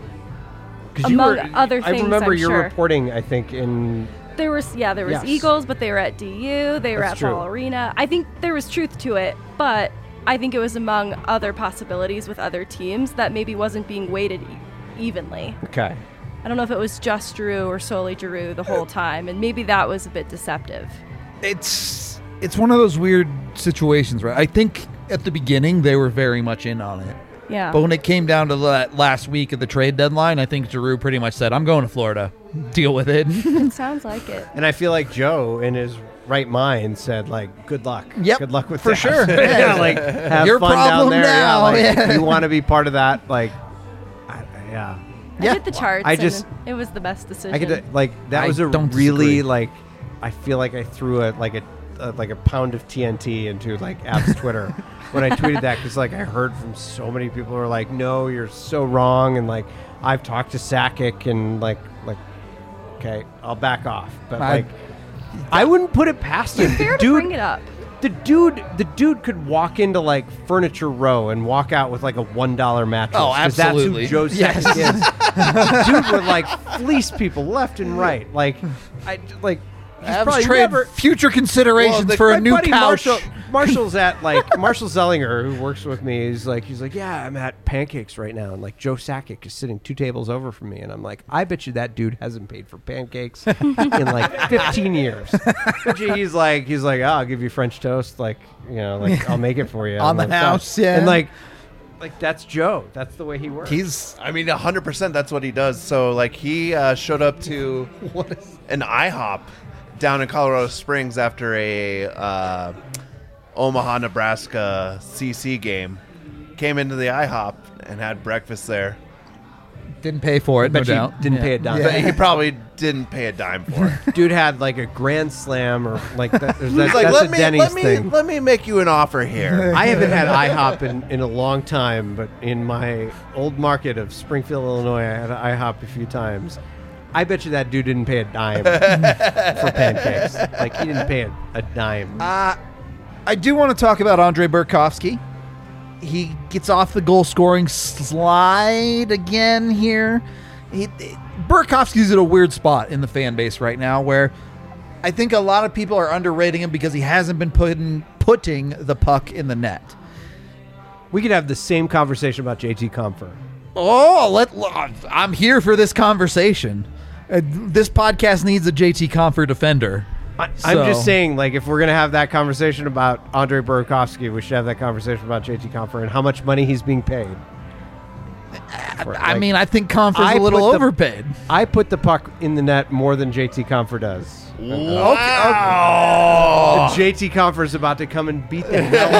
'Cause you among were- other I things, remember I'm your sure. reporting. I think in There was Yes. Eagles, but they were at DU. They were That's at true. Ball Arena. I think there was truth to it, but I think it was among other possibilities with other teams that maybe wasn't being weighted evenly. okay. I don't know if it was just Giroux or solely Giroux the whole time, and maybe that was a bit deceptive. It's one of those weird situations, right? I think at the beginning they were very much in on it. Yeah. But when it came down to that last week of the trade deadline, I think Giroux pretty much said, I'm going to Florida. Deal with it. It sounds like it. And I feel like Joe, in his right mind, said like, "Good luck. Yep, Good luck with for that." sure. Yeah, like have Your fun down problem there. now, Yeah, like, yeah. if you want to be part of that, like, yeah. I Yeah. did the charts, I just- and it was the best decision. I could like that I was a don't really disagree. like. I feel like I threw a pound of TNT into like Ab's Twitter when I tweeted that because like I heard from so many people who were like, "No, you're so wrong," and like I've talked to Sakic and like okay, I'll back off, but like I wouldn't put it past him. Fair to Dude, bring it up. the dude could walk into like Furniture Row and walk out with like a $1 mattress. Oh, 'cause absolutely. That's who Joe Yes. Sakic is. Dude would like fleece people left and right. Like, he's Avs probably trade never. future considerations Well, for My a new buddy couch. Marshall's at like Marshall Zellinger, who works with me. He's like, yeah, I'm at Pancakes right now, and like Joe Sakic is sitting 2 tables over from me, and I'm like, I bet you that dude hasn't paid for pancakes in like 15 years. Bet you he's like, oh, I'll give you French toast, like I'll make it for you On the like, house, that. yeah. and like that's Joe. That's the way he works. I mean, 100% that's what he does. So, like, he showed up to an IHOP down in Colorado Springs after a Omaha, Nebraska CC game. Came into the IHOP and had breakfast there. Didn't pay for it, no bet you doubt. didn't pay a dime. But he probably didn't pay a dime for it. Dude had like a Grand Slam or like that. He's like, that's a Denny's thing. let me make you an offer here. I haven't had IHOP in a long time, but in my old market of Springfield, Illinois, I had IHOP a few times. I bet you that dude didn't pay a dime for pancakes. Like, he didn't pay a dime. I do want to talk about Andre Burakovsky. He gets off the goal scoring slide again here. Burakovsky's at a weird spot in the fan base right now where I think a lot of people are underrating him because he hasn't been putting the puck in the net. We could have the same conversation about JT Compher. Oh, I'm here for this conversation. This podcast needs a JT Compher defender. I'm just saying, like, if we're going to have that conversation about Andre Burakovsky, we should have that conversation about JT Compher and how much money he's being paid. I mean, I think Compher's I a little put the- overpaid. I put the puck in the net more than JT Compher does. Wow. JT Compher is about to come and beat the hell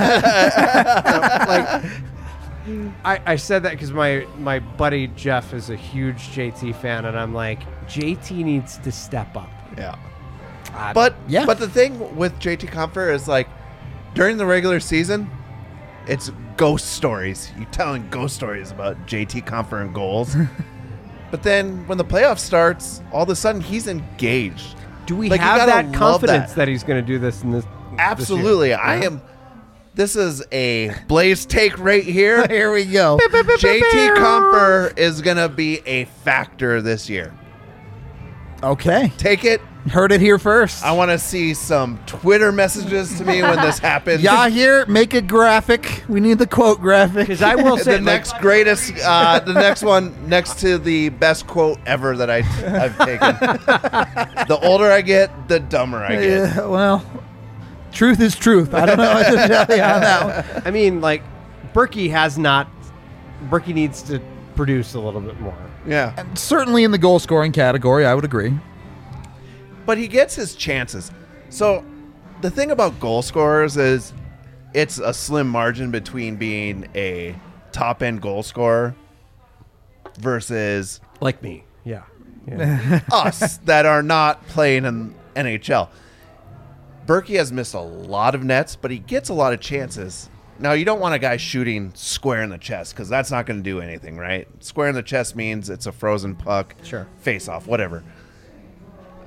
out of him. I said that because my buddy Jeff is a huge JT fan, and I'm like, JT needs to step up. Yeah. But the thing with JT Compher is, like, during the regular season, it's ghost stories. You telling ghost stories about JT Compher and goals. But then when the playoff starts, all of a sudden he's engaged. Do we Like, you have gotta that love confidence that. that he's going to do this in this? Absolutely. This year? I am. This is a Blaze take right here. Here we go. JT Compher is going to be a factor this year. Okay. Take it. Heard it here first. I want to see some Twitter messages to me when this happens. Yeah, here, make a graphic. We need the quote graphic. Because I will say, The next greatest, the next one next to the best quote ever that I've taken. The older I get, the dumber I get. Yeah, well, truth is truth. I don't know what to tell you on that one. I mean, like, Berkey needs to produce a little bit more. Yeah. And certainly in the goal scoring category, I would agree. But he gets his chances. So the thing about goal scorers is it's a slim margin between being a top-end goal scorer versus Like me. Yeah. us that are not playing in NHL. Berkey has missed a lot of nets, but he gets a lot of chances. Now, you don't want a guy shooting square in the chest because that's not going to do anything, right? Square in the chest means it's a frozen puck, Sure. face-off, whatever.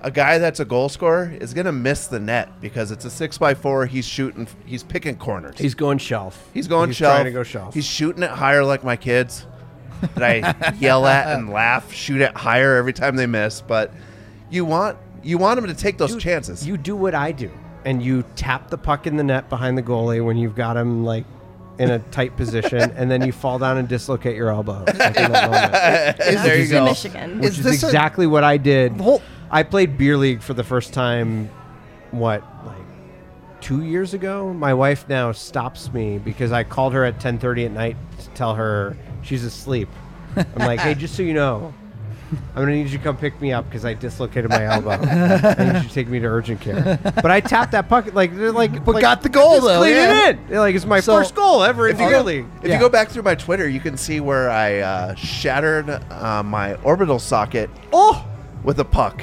a guy that's a goal scorer is going to miss the net because it's a 6x4. He's picking corners. He's going shelf. He's going shelf. Trying to go shelf. He's shooting it higher like my kids that I yell at and laugh, shoot it higher every time they miss. But you want him to take those chances. You do what I do, and you tap the puck in the net behind the goalie when you've got him like in a tight position, and then you fall down and dislocate your elbow. Like in that moment. There you go. Michigan. Which is this a- exactly what I did. The whole- I played beer league for the first time, like 2 years ago? My wife now stops me because I called her at 10:30 at night to tell her she's asleep. I'm like, hey, just so you know, I'm going to need you to come pick me up because I dislocated my elbow. And you should take me to urgent care. But I tapped that puck, But got the goal, though. Clean Yeah. it in. Like, it's my So, first goal ever in If you beer go, league. if you go back through my Twitter, you can see where I shattered my orbital socket with a puck.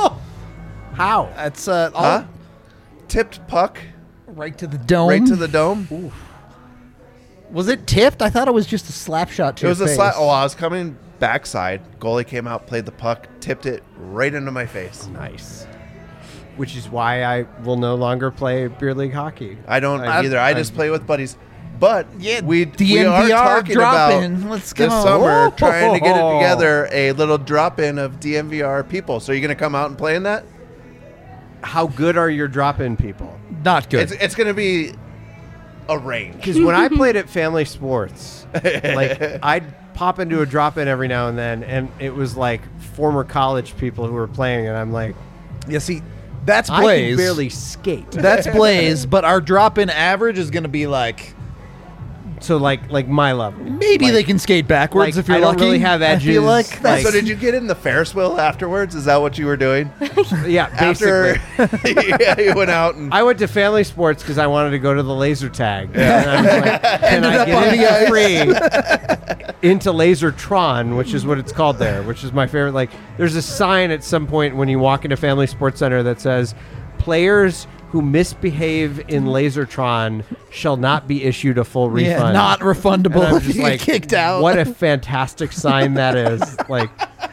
How? That's Huh? Tipped puck right to the dome. right to the dome. Was it tipped? I thought it was just a slap shot to It was your a face. slap. Oh, I was coming backside. Goalie came out, played the puck, tipped it right into my face. Nice. Which is why I will no longer play beer league hockey. I don't either. I just play with buddies. But Yeah, we are DNVR talking drop about in. Let's this go. summer trying to get it Oh. together, a little drop-in of DNVR people. So you're going to come out and play in that? How good are your drop-in people? Not good. It's going to be a range. Because when I played at Family Sports, like I'd pop into a drop-in every now and then, and it was like former college people who were playing, and I'm like, Yeah, see, that's I Blaze. can barely skate. That's Blaze, but our drop-in average is going to be like So like my level. maybe Like- they can skate backwards like, if you're I don't lucky. really have I feel edges, like that's So did you get in the Ferris wheel afterwards? Is that what you were doing? Yeah, After basically. yeah, you went out and I went to Family Sports because I wanted to go to the laser tag. And I was like, can Ended I up on get the in ice. free into Lasertron, which is what it's called there, which is my favorite. Like, there's a sign at some point when you walk into Family Sports Center that says, players who misbehave in Lasertron shall not be issued a full refund. yeah, not And refundable I'm if just you like, get kicked out. What a fantastic sign that is. Like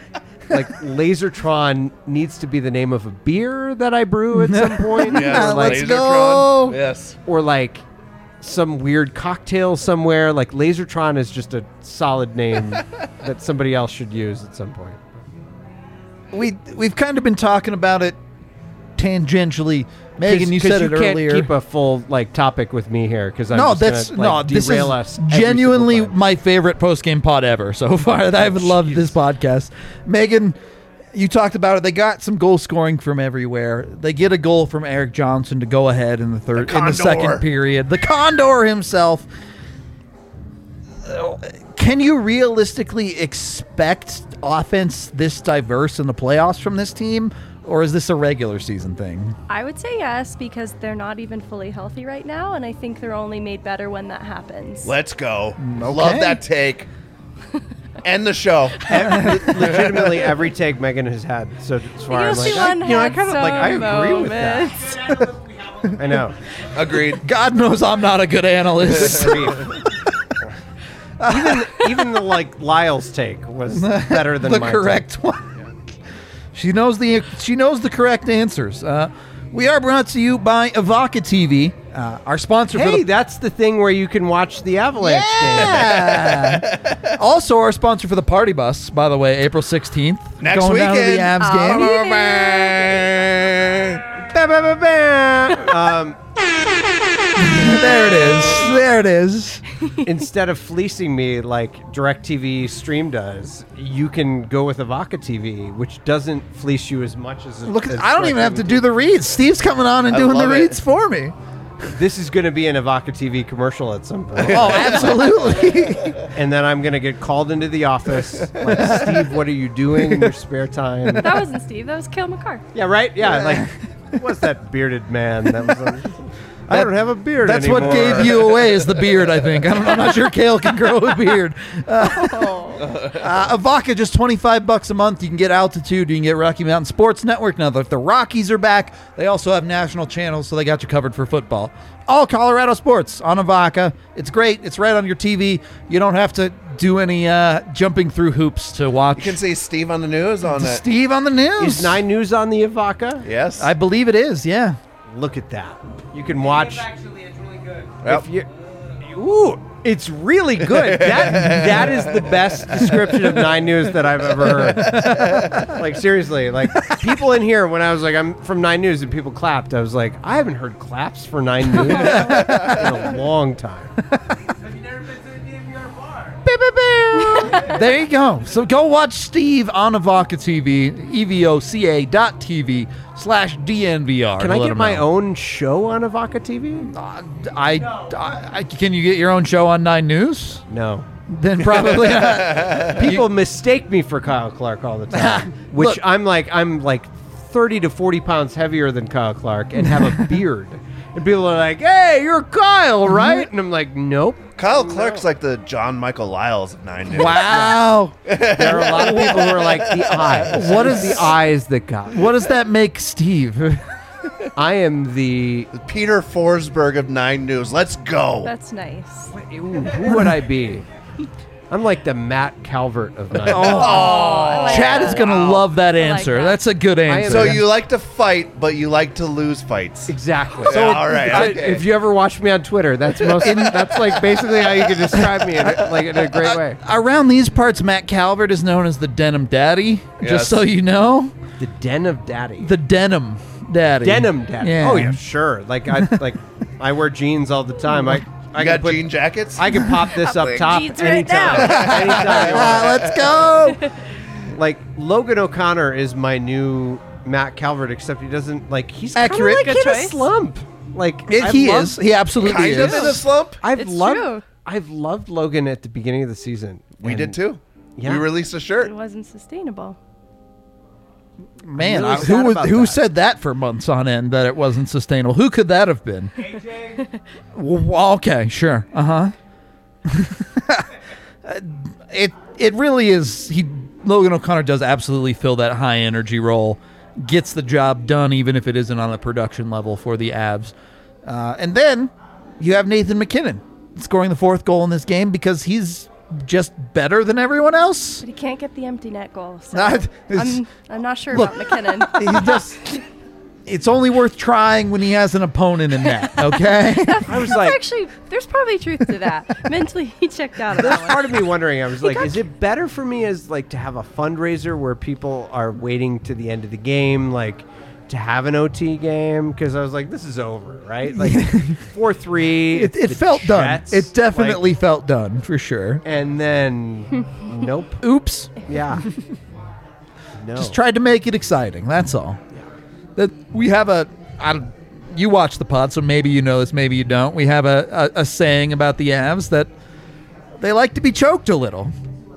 Lasertron needs to be the name of a beer that I brew at some point. yeah, or like, let's go. Yes. or like some weird cocktail somewhere. Like Lasertron is just a solid name that somebody else should use at some point. We've kind of been talking about it tangentially. Megan, you said it can't earlier. keep a full like topic with me here because I'm No, just that's gonna, like, this derail is us every genuinely single time. my favorite post game pod ever so far. I've loved this podcast. Megan, you talked about it. They got some goal scoring from everywhere. They get a goal from Eric Johnson to go ahead in the second Condor. period. The Condor himself. Can you realistically expect offense this diverse in the playoffs from this team, or is this a regular season thing? I would say yes because they're not even fully healthy right now, and I think they're only made better when that happens. Let's go. Okay. Love that take. End the show. Legitimately every take Megan has had so far. I'm You'll like, see one I had kind of like I some agree with that. moments. I know. Agreed. God knows I'm not a good analyst. even the like Lyle's take was better than the my correct take. one. She knows the correct answers. We are brought to you by Avaka TV, our sponsor for Hey, the that's the thing where you can watch the Avalanche game. yeah. Also, our sponsor for the Party Bus, by the way, April 16th. Next going down to the weekend. Avs game. Ba, ba, ba, ba. There it is. There it is. Instead of fleecing me like DirecTV Stream does, you can go with Avaka TV, which doesn't fleece you as much as. Look, as I don't even have to DirecTV. do the reads. Steve's coming on and I doing the love it. reads for me. This is going to be an Avaka TV commercial at some point. Oh, absolutely. And then I'm going to get called into the office. Like, Steve, what are you doing in your spare time? That wasn't Steve. That was Cale McCarr. Yeah, right? Yeah, like, what's that bearded man? That was I don't have a beard That's anymore. what gave you away is the beard, I think. I'm not sure Kale can grow a beard. Avaka, just $25 a month. You can get Altitude. You can get Rocky Mountain Sports Network. Now that the Rockies are back, they also have national channels, so they got you covered for football. All Colorado sports on Avaka. It's great. It's right on your TV. You don't have to do any jumping through hoops to watch. You can see Steve on the news on that. Steve on the news. Is 9 News on the Ivaka? Yes. I believe it is. Yeah. Look at that. You can watch. Actually, it's really good. Yep. If you, ooh, it's really good. That is the best description of 9 News that I've ever heard. Like, seriously, like, people in here, when I was like, I'm from 9 News, and people clapped, I was like, I haven't heard claps for 9 News in a long time. Have you never been to the DNVR bar? There you go. So go watch Steve on Avoca TV, evoca.tv/DNVR. Can I get my own show on Ivaka TV? Can you get your own show on 9 News? No. Then probably not. People mistake me for Kyle Clark all the time, which Look. I'm like 30 to 40 pounds heavier than Kyle Clark and have a beard. And people are like, hey, you're Kyle, right? And I'm like, nope. Kyle Clark's like the John Michael Lyles of 9 News. Wow. There are a lot of people who are like, the eyes. What It's is- the eyes that got me. What does that make Steve? I am the... Peter Forsberg of 9 News. Let's go. That's nice. Ooh, who would I be? I'm like the Matt Calvert of 9 News. I like Chad that. is going to love that like answer. that. That's a good am- answer. So you like to fight, but you like to lose fights. Exactly. Yeah, all right, okay. If you ever watch me on Twitter, that's like basically how you can describe me in a great way. Around these parts, Matt Calvert is known as the Denim Daddy. Yes. Just so you know, The Den of Daddy. the Denim Daddy. Denim Daddy. Yeah. Oh yeah, sure. I wear jeans all the time. I You can got jean jackets? I can pop this up wearing top jeans right anytime. Anytime you want. Let's go. Like Logan O'Connor is my new Matt Calvert, except he doesn't like he's kinda Accurate. like Good in a choice. slump. Like He is. He absolutely kind is. of in a slump. I've It's loved true. I've loved Logan at the beginning of the season. We And did too. Yeah. We released a It shirt. wasn't sustainable. Man, I'm really sad about who that. said that for months on end that it wasn't sustainable? Who could that have been? AJ, Well, okay, sure. It really is. Logan O'Connor does absolutely fill that high energy role, gets the job done even if it isn't on a production level for the Avs. And then you have Nathan McKinnon scoring the 4th goal in this game because he's just better than everyone else. But he can't get the empty net goal. So Not- it's- I'm not sure Look. about McKinnon. He just. It's only worth trying when he has an opponent in net. Okay. I was like Actually, there's probably truth to that. Mentally, he checked out on there's that one. part of me wondering, I was like, is it better for me as like to have a fundraiser where people are waiting to the end of the game, like to have an OT game? Because I was like, this is over, right? Like 4-3. It the felt done. Jets, It definitely like- felt done for sure. and then nope. Oops. Yeah. No. Just tried to make it exciting. That's all. That we have you watch the pod, so maybe you know this, maybe you don't. We have a saying about the Avs that they like to be choked a little.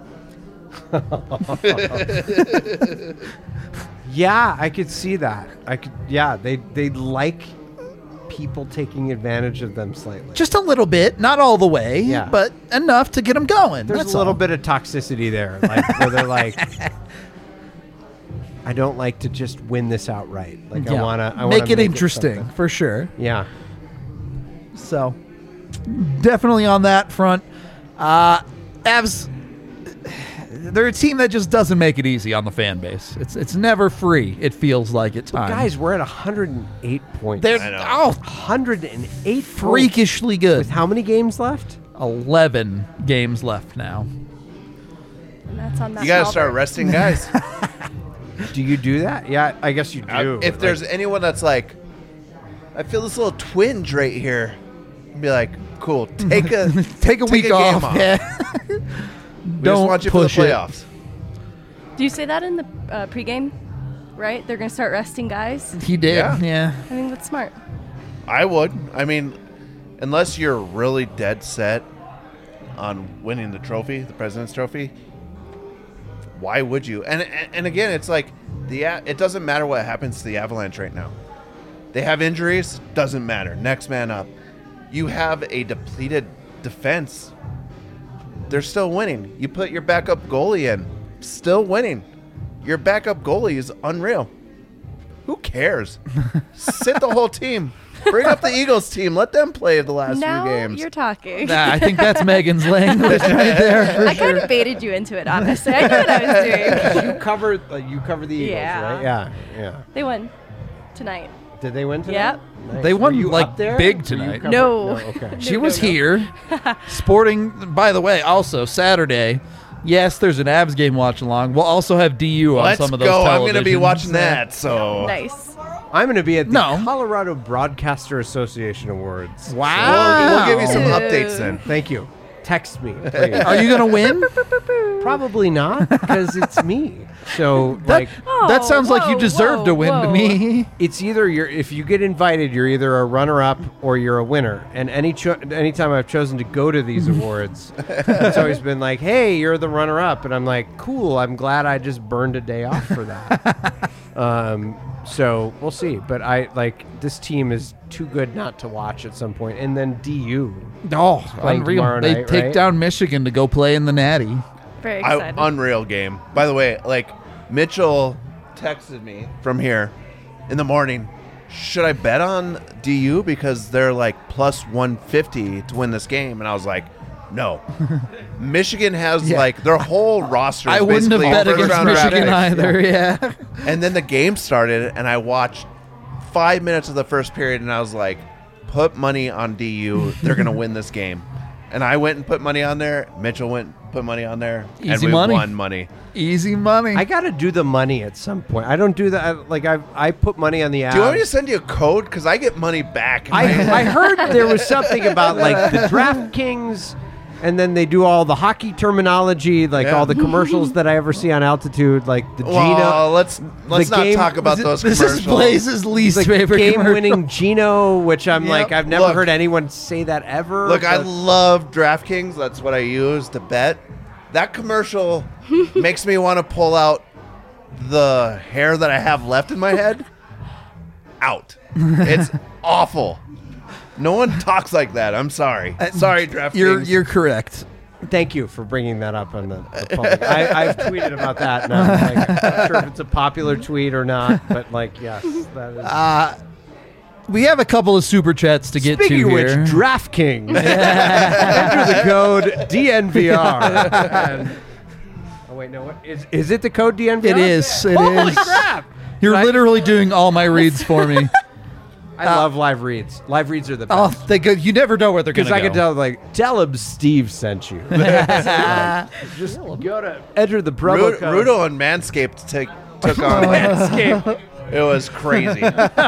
Yeah, I could see that. Yeah, they like people taking advantage of them slightly. Just a little bit, not all the way, Yeah. but enough to get them going. There's That's a little all. bit of toxicity there, like where they're like, I don't like to just win this outright. Like Yeah. I wanna make it interesting something. for sure. Yeah. So, definitely on that front. Avs, they're a team that just doesn't make it easy on the fan base. It's never free, it feels like at times. Guys, we're at 108 points. they're I know. 108 freakishly points. good. With how many games left? 11 games left now. And that's on that. You got to small start bird. resting guys. Do you do that? Yeah, I guess you do. If there's anyone that's like, I feel this little twinge right here, be like, cool, take a Take a week game off. off. Yeah. We Don't just want you for the push it. playoffs. Do you say that in the pregame? Right? They're going to start resting guys. He did. Yeah. Yeah. I think that's smart. I would. I mean, unless you're really dead set on winning the trophy, the President's Trophy, why would you? And again, it's like it doesn't matter what happens to the Avalanche right now. They have injuries, doesn't matter. Next man up. You have a depleted defense. They're still winning. You put your backup goalie in, still winning. Your backup goalie is unreal. Who cares? Sit the whole team. Bring up the Eagles team. Let them play the last Now few games. you're talking. Nah, I think that's Megan's language right there. For I kind of baited you into it, honestly. I knew what I was doing. You cover the Eagles, Yeah. right? Yeah. They won tonight. Did they win tonight? Yep. Nice. They won, Were you like, up there? big Were you tonight. covered? No. Okay. She was here, sporting. By the way, also Saturday. Yes, there's an Avs game watch along. We'll also have DU on Let's some of those. go. I'm going to be televisions. watching that. So Nice. I'm going to be at the No. Colorado Broadcaster Association Awards. Wow. we'll give you some Dude. updates then. Thank you. Text me, please. Are you gonna win? Probably not, because it's me. So, That, Oh, that sounds like you whoa, deserve to win to whoa. me. it's either if you get invited, you're either a runner-up or you're a winner. And anytime I've chosen to go to these awards, it's always been like, "Hey, you're the runner-up," and I'm like, "Cool. I'm glad I just burned a day off for that." So we'll see. But this team is too good not to watch at some point. And then DU. Oh, Playing unreal! tomorrow They night, take right? down Michigan to go play in the Natty. Very excited. Unreal game. By the way, Mitchell texted me from here in the morning. Should I bet on DU because they're plus 150 to win this game? And I was like, no. Michigan has their whole roster. Is I wouldn't have basically bet against first-round draft Michigan picks. either. Yeah. And then the game started, and I watched 5 minutes of the first period, and I was like, put money on DU. They're going to win this game. And I went and put money on there. Mitchell went and put money on there. and Easy we money. won money. Easy money. I got to do the money at some point. I don't do that. I put money on the app. Do you want me to send you a code? Because I get money back. I heard there was something about the DraftKings, and then they do all the hockey terminology, Yeah. all the commercials that I ever see on Altitude, the Gino. Well, let's not game- talk about those this commercials. is Blaze's least The favorite game-winning commercial. Gino, which I'm Yep. I've never Look. heard anyone say that ever. Look, I but- love DraftKings. That's what I use to bet. That commercial makes me want to pull out the hair that I have left in my head. Out. It's awful. No one talks like that. I'm sorry. Sorry, DraftKings. You're correct. Thank you for bringing that up on the public. I've tweeted about that, and I'm not sure if it's a popular tweet or not, but yes, that is. We have a couple of super chats to get Speaking to of which, here. DraftKings. Enter the code DNVR. Oh wait, no. What is it? The code DNVR? It is. It Holy is. crap! You're Right? literally doing all my reads for me. I love live reads. Live reads are the Oh, best. they go. You never know where they're going Because to go. I can tell him Steve sent you. Just go to enter the promo code. Rudo and Manscaped took on Manscaped. It was crazy.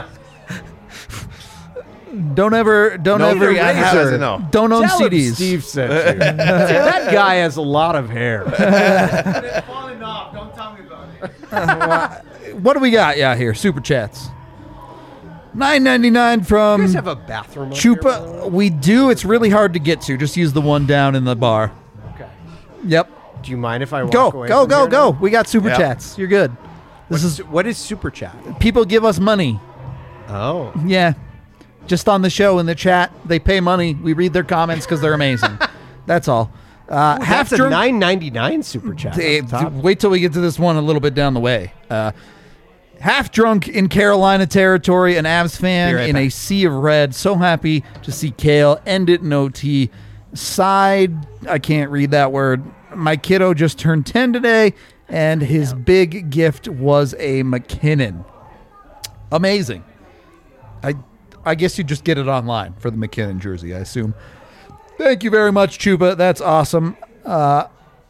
Don't ever free advertising, no. Don't own Tell him CDs. Steve sent you. That guy has a lot of hair. It's falling off. Don't tell me about it. What do we got? Yeah, here super chats. $9.99 You from guys have a bathroom up here, by the way? Chupa. We do. It's really hard to get to. Just use the one down in the bar. Okay. Yep. Do you mind if I walk Go, away go, from go, here go. now? We got super Yep. chats. You're good. What is Super Chat? People give us money. Oh. Yeah. Just on the show in the chat, they pay money. We read their comments because they're amazing. That's all. Half That's a drunk. $9.99 Super Chat. That's top. Wait till we get to this one a little bit down the way. Half drunk in Carolina territory, an Avs fan Be right in a back. sea of red. So happy to see Kale end it in OT. Side, I can't read that word. My kiddo just turned 10 today, and his big gift was a McKinnon. Amazing. I guess you just get it online for the McKinnon jersey, I assume. Thank you very much, Chuba. That's awesome. Yeah,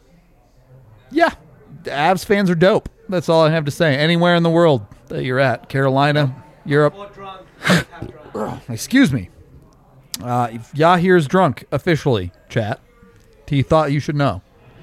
the Avs fans are dope. That's all I have to say. Anywhere in the world that you're at, Carolina, Europe. Or drunk. Half drunk. Excuse me. If Yahir's drunk officially, chat. He thought you should know.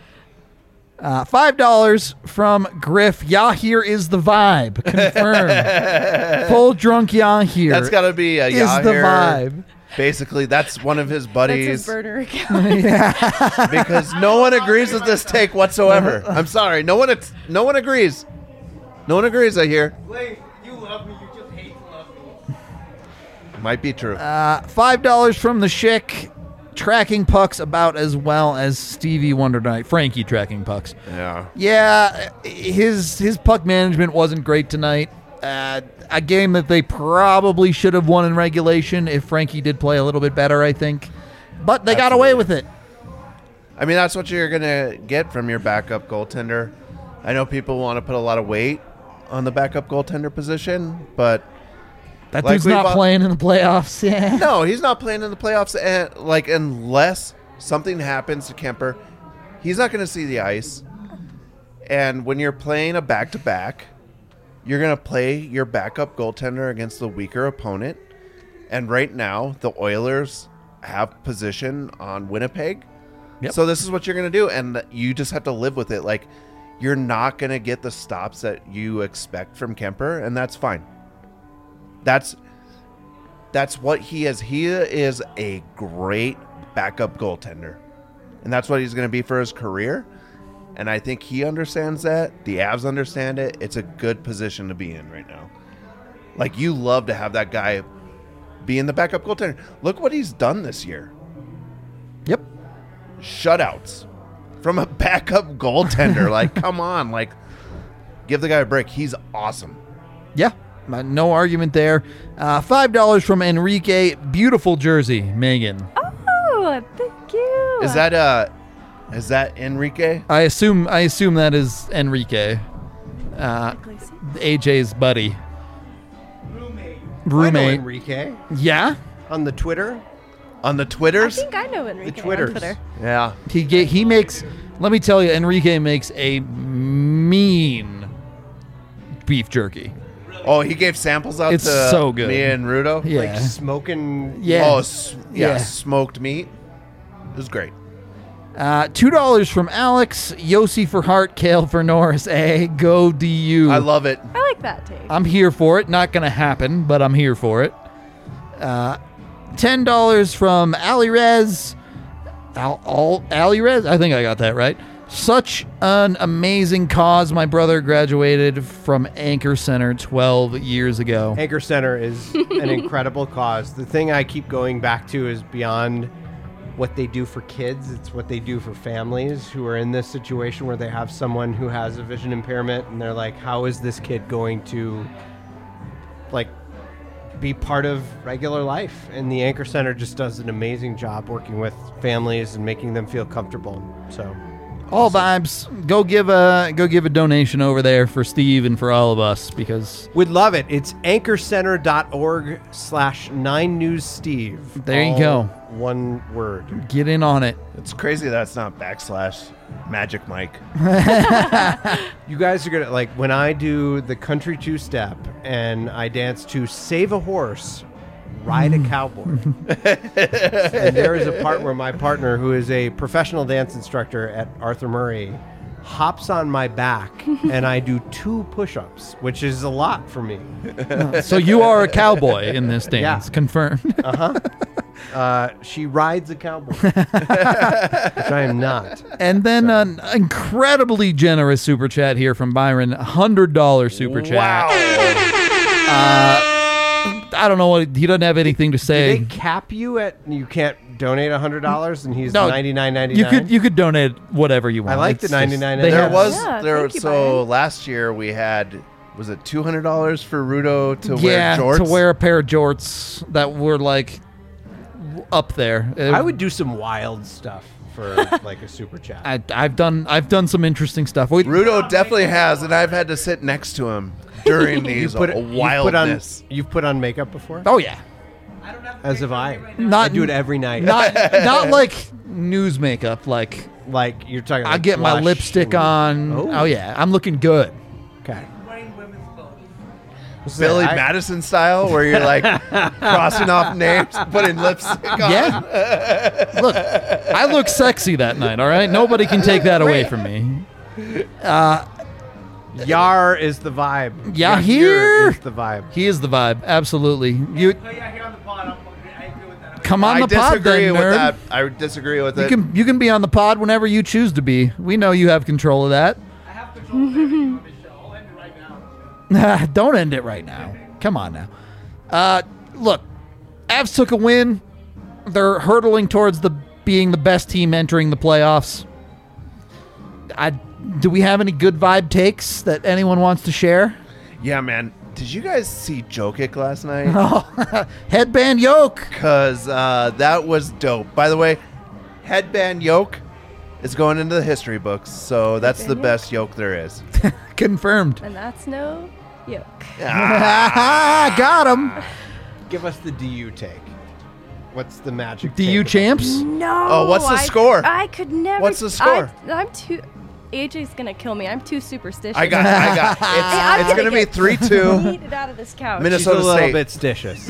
$5 from Griff. Yahir is the vibe. Confirmed. Full drunk Yahir. That's got to be a is the Yahir. vibe. Basically, that's one of his That's buddies his burner account. because no one agrees with this take whatsoever. I'm sorry. No one agrees. No one agrees, I hear. Blaze, you love me. You just hate to love me. Might be true. $5 from the Schick. Tracking pucks about as well as Stevie Wonder tonight. Frankie tracking pucks. Yeah. Yeah, his puck management wasn't great tonight. A game that they probably should have won in regulation if Frankie did play a little bit better, I think. But they got away with it. I mean, that's what you're going to get from your backup goaltender. I know people want to put a lot of weight on the backup goaltender position, but That like dude's not playing in the playoffs. Yeah. no, he's not playing in the playoffs. And unless something happens to Kemper, he's not going to see the ice. And when you're playing a back-to-back, you're going to play your backup goaltender against the weaker opponent. And right now, the Oilers have position on Winnipeg. Yep. So this is what you're going to do. And you just have to live with it. Like, you're not going to get the stops that you expect from Kemper, and that's fine. That's what he is. He is a great backup goaltender. And that's what he's going to be for his career. And I think he understands that. The Avs understand it. It's a good position to be in right now. Like, you love to have that guy be in the backup goaltender. Look what he's done this year. Yep. Shutouts from a backup goaltender. Like, come on. Like, give the guy a break. He's awesome. Yeah. No argument there. $5 from Enrique. Beautiful jersey, Megan. Oh, thank you. Is that Enrique? I assume that is Enrique. AJ's buddy. I know Roommate. Enrique Yeah. on the Twitter. On the I Twitters? think I know Enrique The on Twitters. Twitter. Yeah. He makes. Let me tell you, Enrique makes a mean beef jerky. Oh, he gave samples out It's to so good. me and Rudo? Yeah. Like smoking. Yeah. Oh, Yeah. smoked meat. It was great. $2 from Alex. Yossi for Hart. Kale for Norris. Go DU. I love it. I like that take. I'm here for it. Not going to happen, but I'm here for it. $10 from Ali Rez. Ali Rez? I think I got that right. Such an amazing cause. My brother graduated from Anchor Center 12 years ago. Anchor Center is an incredible cause. The thing I keep going back to is beyond what they do for kids. It's what they do for families who are in this situation where they have someone who has a vision impairment and they're like, how is this kid going to be part of regular life? And the Anchor Center just does an amazing job working with families and making them feel comfortable. So All vibes. Go give a donation over there for Steve and for all of us because we'd love it. It's anchorcenter.org/9newssteve. There you All go. One word. get in on it. It's crazy that's not / Magic Mike. You guys are gonna like when I do the country two-step and I dance to Save a Horse, Ride a Cowboy. And there is a part where my partner, who is a professional dance instructor at Arthur Murray, hops on my back and I do 2 push-ups, which is a lot for me. So you are a cowboy in this dance. Yeah. Confirmed. She rides a cowboy, which I am not. And then an incredibly generous super chat here from Byron. $100 super chat. I don't know what he doesn't have anything to Do say. they cap you at you can't donate $100 and he's No, $99.99? You could donate whatever you want. I like the It's just- $99.99. they There have- was Yeah, there. thank you, So Brian. last year we had, was it $200 for Rudo to yeah, wear jorts? to wear a pair of jorts that were like up there. I would do some wild stuff for like a super chat. I've done some interesting stuff. Rudo definitely has, and I've had to sit next to him during these wildness. You've put on makeup before? Oh yeah. As have I. Not I do it every night. not like news makeup. Like like you're talking. I Like get my blush lipstick and- on. Oh yeah, I'm looking good. Okay. Billy Madison style, where you're like crossing off names, putting lipstick on. Yeah. Look, I look sexy that night. All right, nobody can take that away from me. Yar is the vibe. Yahir Yahir is the vibe. He is the vibe. Absolutely. You Oh, yeah, here on the pod. I agree with that. come on I the pod, disagree then, with nerd. that. I disagree with it. You can be on the pod whenever you choose to be. We know you have control of that. I have control of everything on this show. I'll end it right now. Don't end it right now. Come on now. Look, Avs took a win. They're hurtling towards being the best team entering the playoffs. Do we have any good vibe takes that anyone wants to share? Yeah, man. Did you guys see Jokic last night? Oh, headband yoke. Because that was dope. By the way, headband yoke is going into the history books, so that's the Headband best yoke there is. Confirmed. And that's no yoke. Got him. Give us the DU take. What's the magic? DU take? champs. No. Oh, what's the score? I could never. What's the score? I'm too. AJ's gonna kill me. I'm too superstitious. I got. I'm It's going to be get 3-2. yeeted out of this couch. Minnesota She's a little State. bit stitious.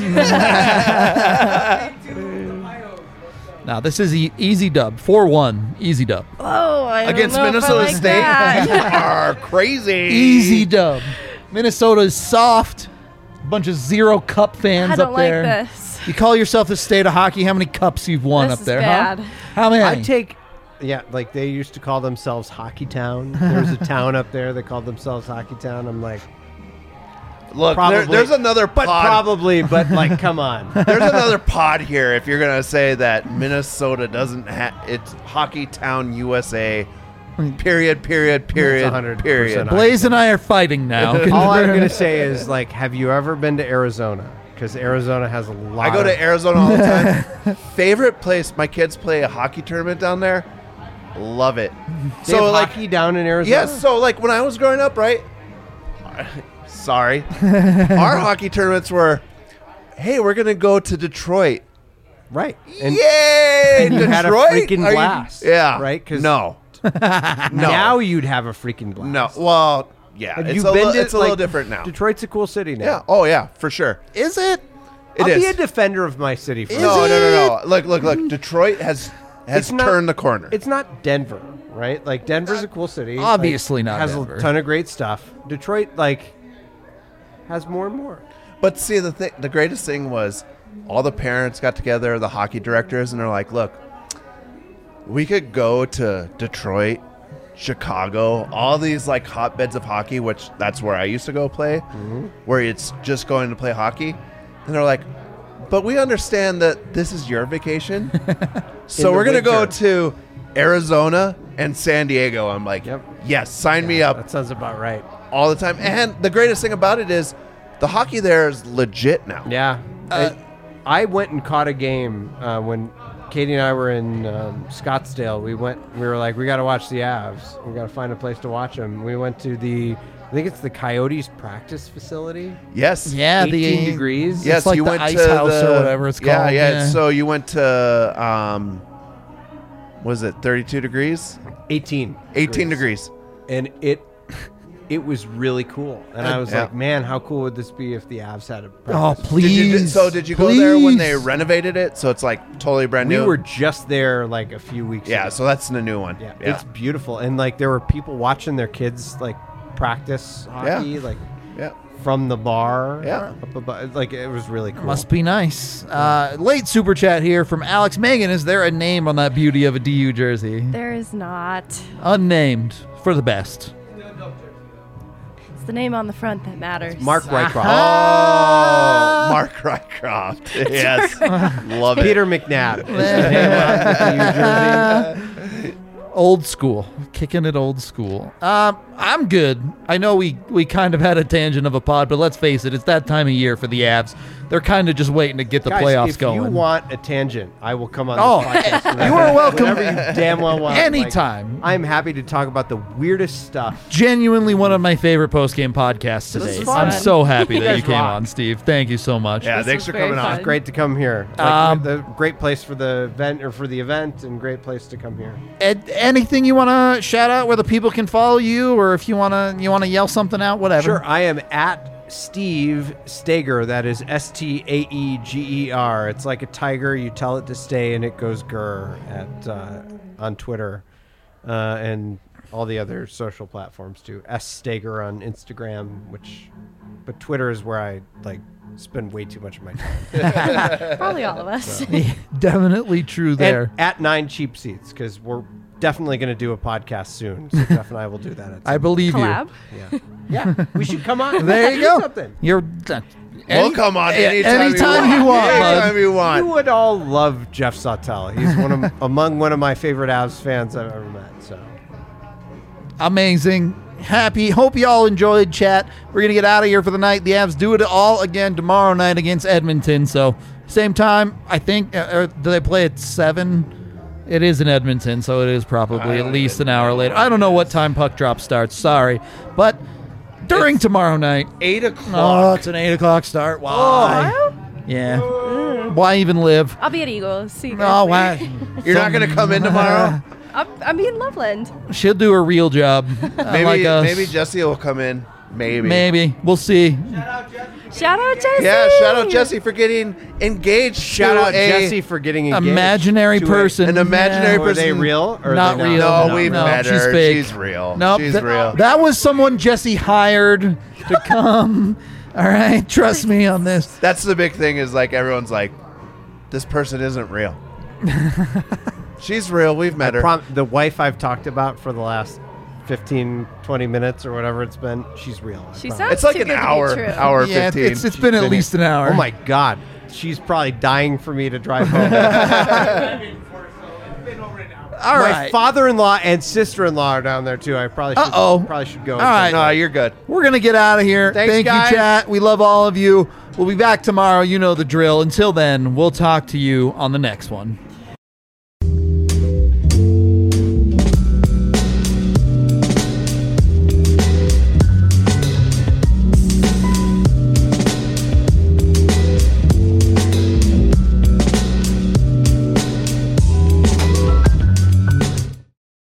Now this is easy dub. 4-1. Easy dub. Oh, I don't Against know if I Minnesota like State. that. You are crazy. Easy dub. Minnesota is soft. A bunch of zero cup fans I don't up like there. this. You call yourself the state of hockey. How many cups you've won This up is there, bad. huh? How many? I take, yeah, like they used to call themselves Hockey Town. There's a town up there that called themselves Hockey Town. I'm like, Look, Probably. there's another but pod. probably, but like, come on. There's another pod here if you're going to say that Minnesota doesn't have it's Hockey Town USA. Period. 100%. Blaze and I are fighting now. All I'm gonna say is like, have you ever been to Arizona? Because Arizona has a lot. I go of, to Arizona all the time. Favorite place, my kids play a hockey tournament down there. Love it. They have hockey down in Arizona. Yes, so like when I was growing up, right? Sorry. Our hockey tournaments were, hey, we're going to go to Detroit. right. And Yay! and you Detroit? had a freaking Are you- blast, yeah. right? 'Cause no. now you'd have a freaking blast. No. Well, yeah. Have It's you a, been little, to, it's a little like, different now. Detroit's a cool city now. Yeah. Oh, yeah, for sure. Is it? It I'll is. be a defender of my city. For No. Look. Detroit has It's not- turned the corner. It's not Denver, right? Like Denver's a cool city. Obviously like, not Has Denver. a ton of great stuff. Detroit like has more and more. But see, the greatest thing was all the parents got together, the hockey directors, and they're like, look, we could go to Detroit, Chicago, all these like hotbeds of hockey, which that's where I used to go play, where it's just going to play hockey. And they're like, but we understand that this is your vacation. So In the we're going to go winter. to Arizona and San Diego. I'm like, Yep. yes, sign me up That sounds about right. all the time. And the greatest thing about it is the hockey there is legit now. Yeah. I went and caught a game when Katie and I were in Scottsdale. We were like, we got to watch the Avs. We got to find a place to watch them. We went to I think it's the Coyotes practice facility. Yes. Yeah, 18 the degrees. Yes, It's like you the went ice to house the, or whatever it's yeah, called. Yeah, Yeah. So you went to, was it 32 degrees? 18. 18 degrees. And it was really cool. And I was Yeah. like, man, how cool would this be if the Avs had a Oh, practice? please. Did you go there when they please. renovated it? So it's like totally brand We new. were just there like a few weeks Yeah, ago. so that's the new one. Yeah, it's beautiful. And like there were people watching their kids like practice hockey, like yeah. from the bar. Yeah. Up above. Like it was really cool. Must be nice. Late super chat here from Alex Megan. Is there a name on that beauty of a DU jersey? There is not. Unnamed for the best. It's the name on the front that matters. Mark Rycroft. Oh, Mark Rycroft. Yes. Love it. Peter McNabb. is the name on the DU jersey. Old school. Kicking it old school. I'm good. I know we kind of had a tangent of a pod, but let's face it, it's that time of year for the Avs. They're kind of just waiting to get the Guys, playoffs if going. you want a tangent, I will come on Oh, this podcast. you are welcome. Whenever you damn well want. Anytime. Like, I'm happy to talk about the weirdest stuff. Genuinely one of my favorite post-game podcasts today. is I'm fun. so happy that guys you came rock. on, Steve. Thank you so much. Yeah, This thanks was for very coming on. fun. Great to come here. Like, Um, the great place for the event and great place to come here. Anything you want to shout out where the people can follow you, or if you want to yell something out, whatever. Sure, I am at Steve Stager. That is STAEGER. It's like a tiger. You tell it to stay, and it goes grr on Twitter and all the other social platforms too. S Stager on Instagram, but Twitter is where I like spend way too much of my time. Probably all of us. Definitely true there. And at 9 Cheap Seats, because we're definitely going to do a podcast soon. So Jeff and I will do that. At I some believe Collab. Yeah, we should come on. There you Do go. something. You're. We'll come on anytime, anytime you want, bud. Anytime you want. You would all love Jeff Sautel. He's among one of my favorite Avs fans I've ever met. So Amazing. happy. Hope you all enjoyed, chat. We're going to get out of here for the night. The Avs do it all again tomorrow night against Edmonton. So, same time, I think. Do they play at 7? It is in Edmonton, so it is probably at least an hour later. I don't know what time puck drop starts. Sorry. But during tomorrow night. 8 Oh, o'clock. it's an 8 o'clock start. Why? Yeah. Why even live? I'll be at Eagles. See you Oh, guys. why? You're not going to come in tomorrow? I'll be in Loveland. She'll do a real job. Maybe Jesse will come in. Maybe. We'll see. Shout out, Jesse. Yeah, shout out Jesse for getting engaged. Shout to out Jesse for getting engaged. Imaginary to person. an imaginary Were they person. real? Or Not are they real. No, we've met she's her. fake. She's real. Nope. She's real. That was someone Jesse hired to come. All right. Trust me on this. That's the big thing is like everyone's like, this person isn't real. She's real. We've met her. The wife I've talked about for the last 15, 20 minutes or whatever it's been, she's real. I She promise. sounds It's like too an good to be hour, true. hour Yeah, 15. it's been at least an hour. Oh my God. She's probably dying for me to drive home. All My right. father-in-law and sister-in-law are down there too. I probably should go. All right. No, you're good. We're going to get out of here. Thanks, Thank guys. you, chat. We love all of you. We'll be back tomorrow. You know the drill. Until then, we'll talk to you on the next one.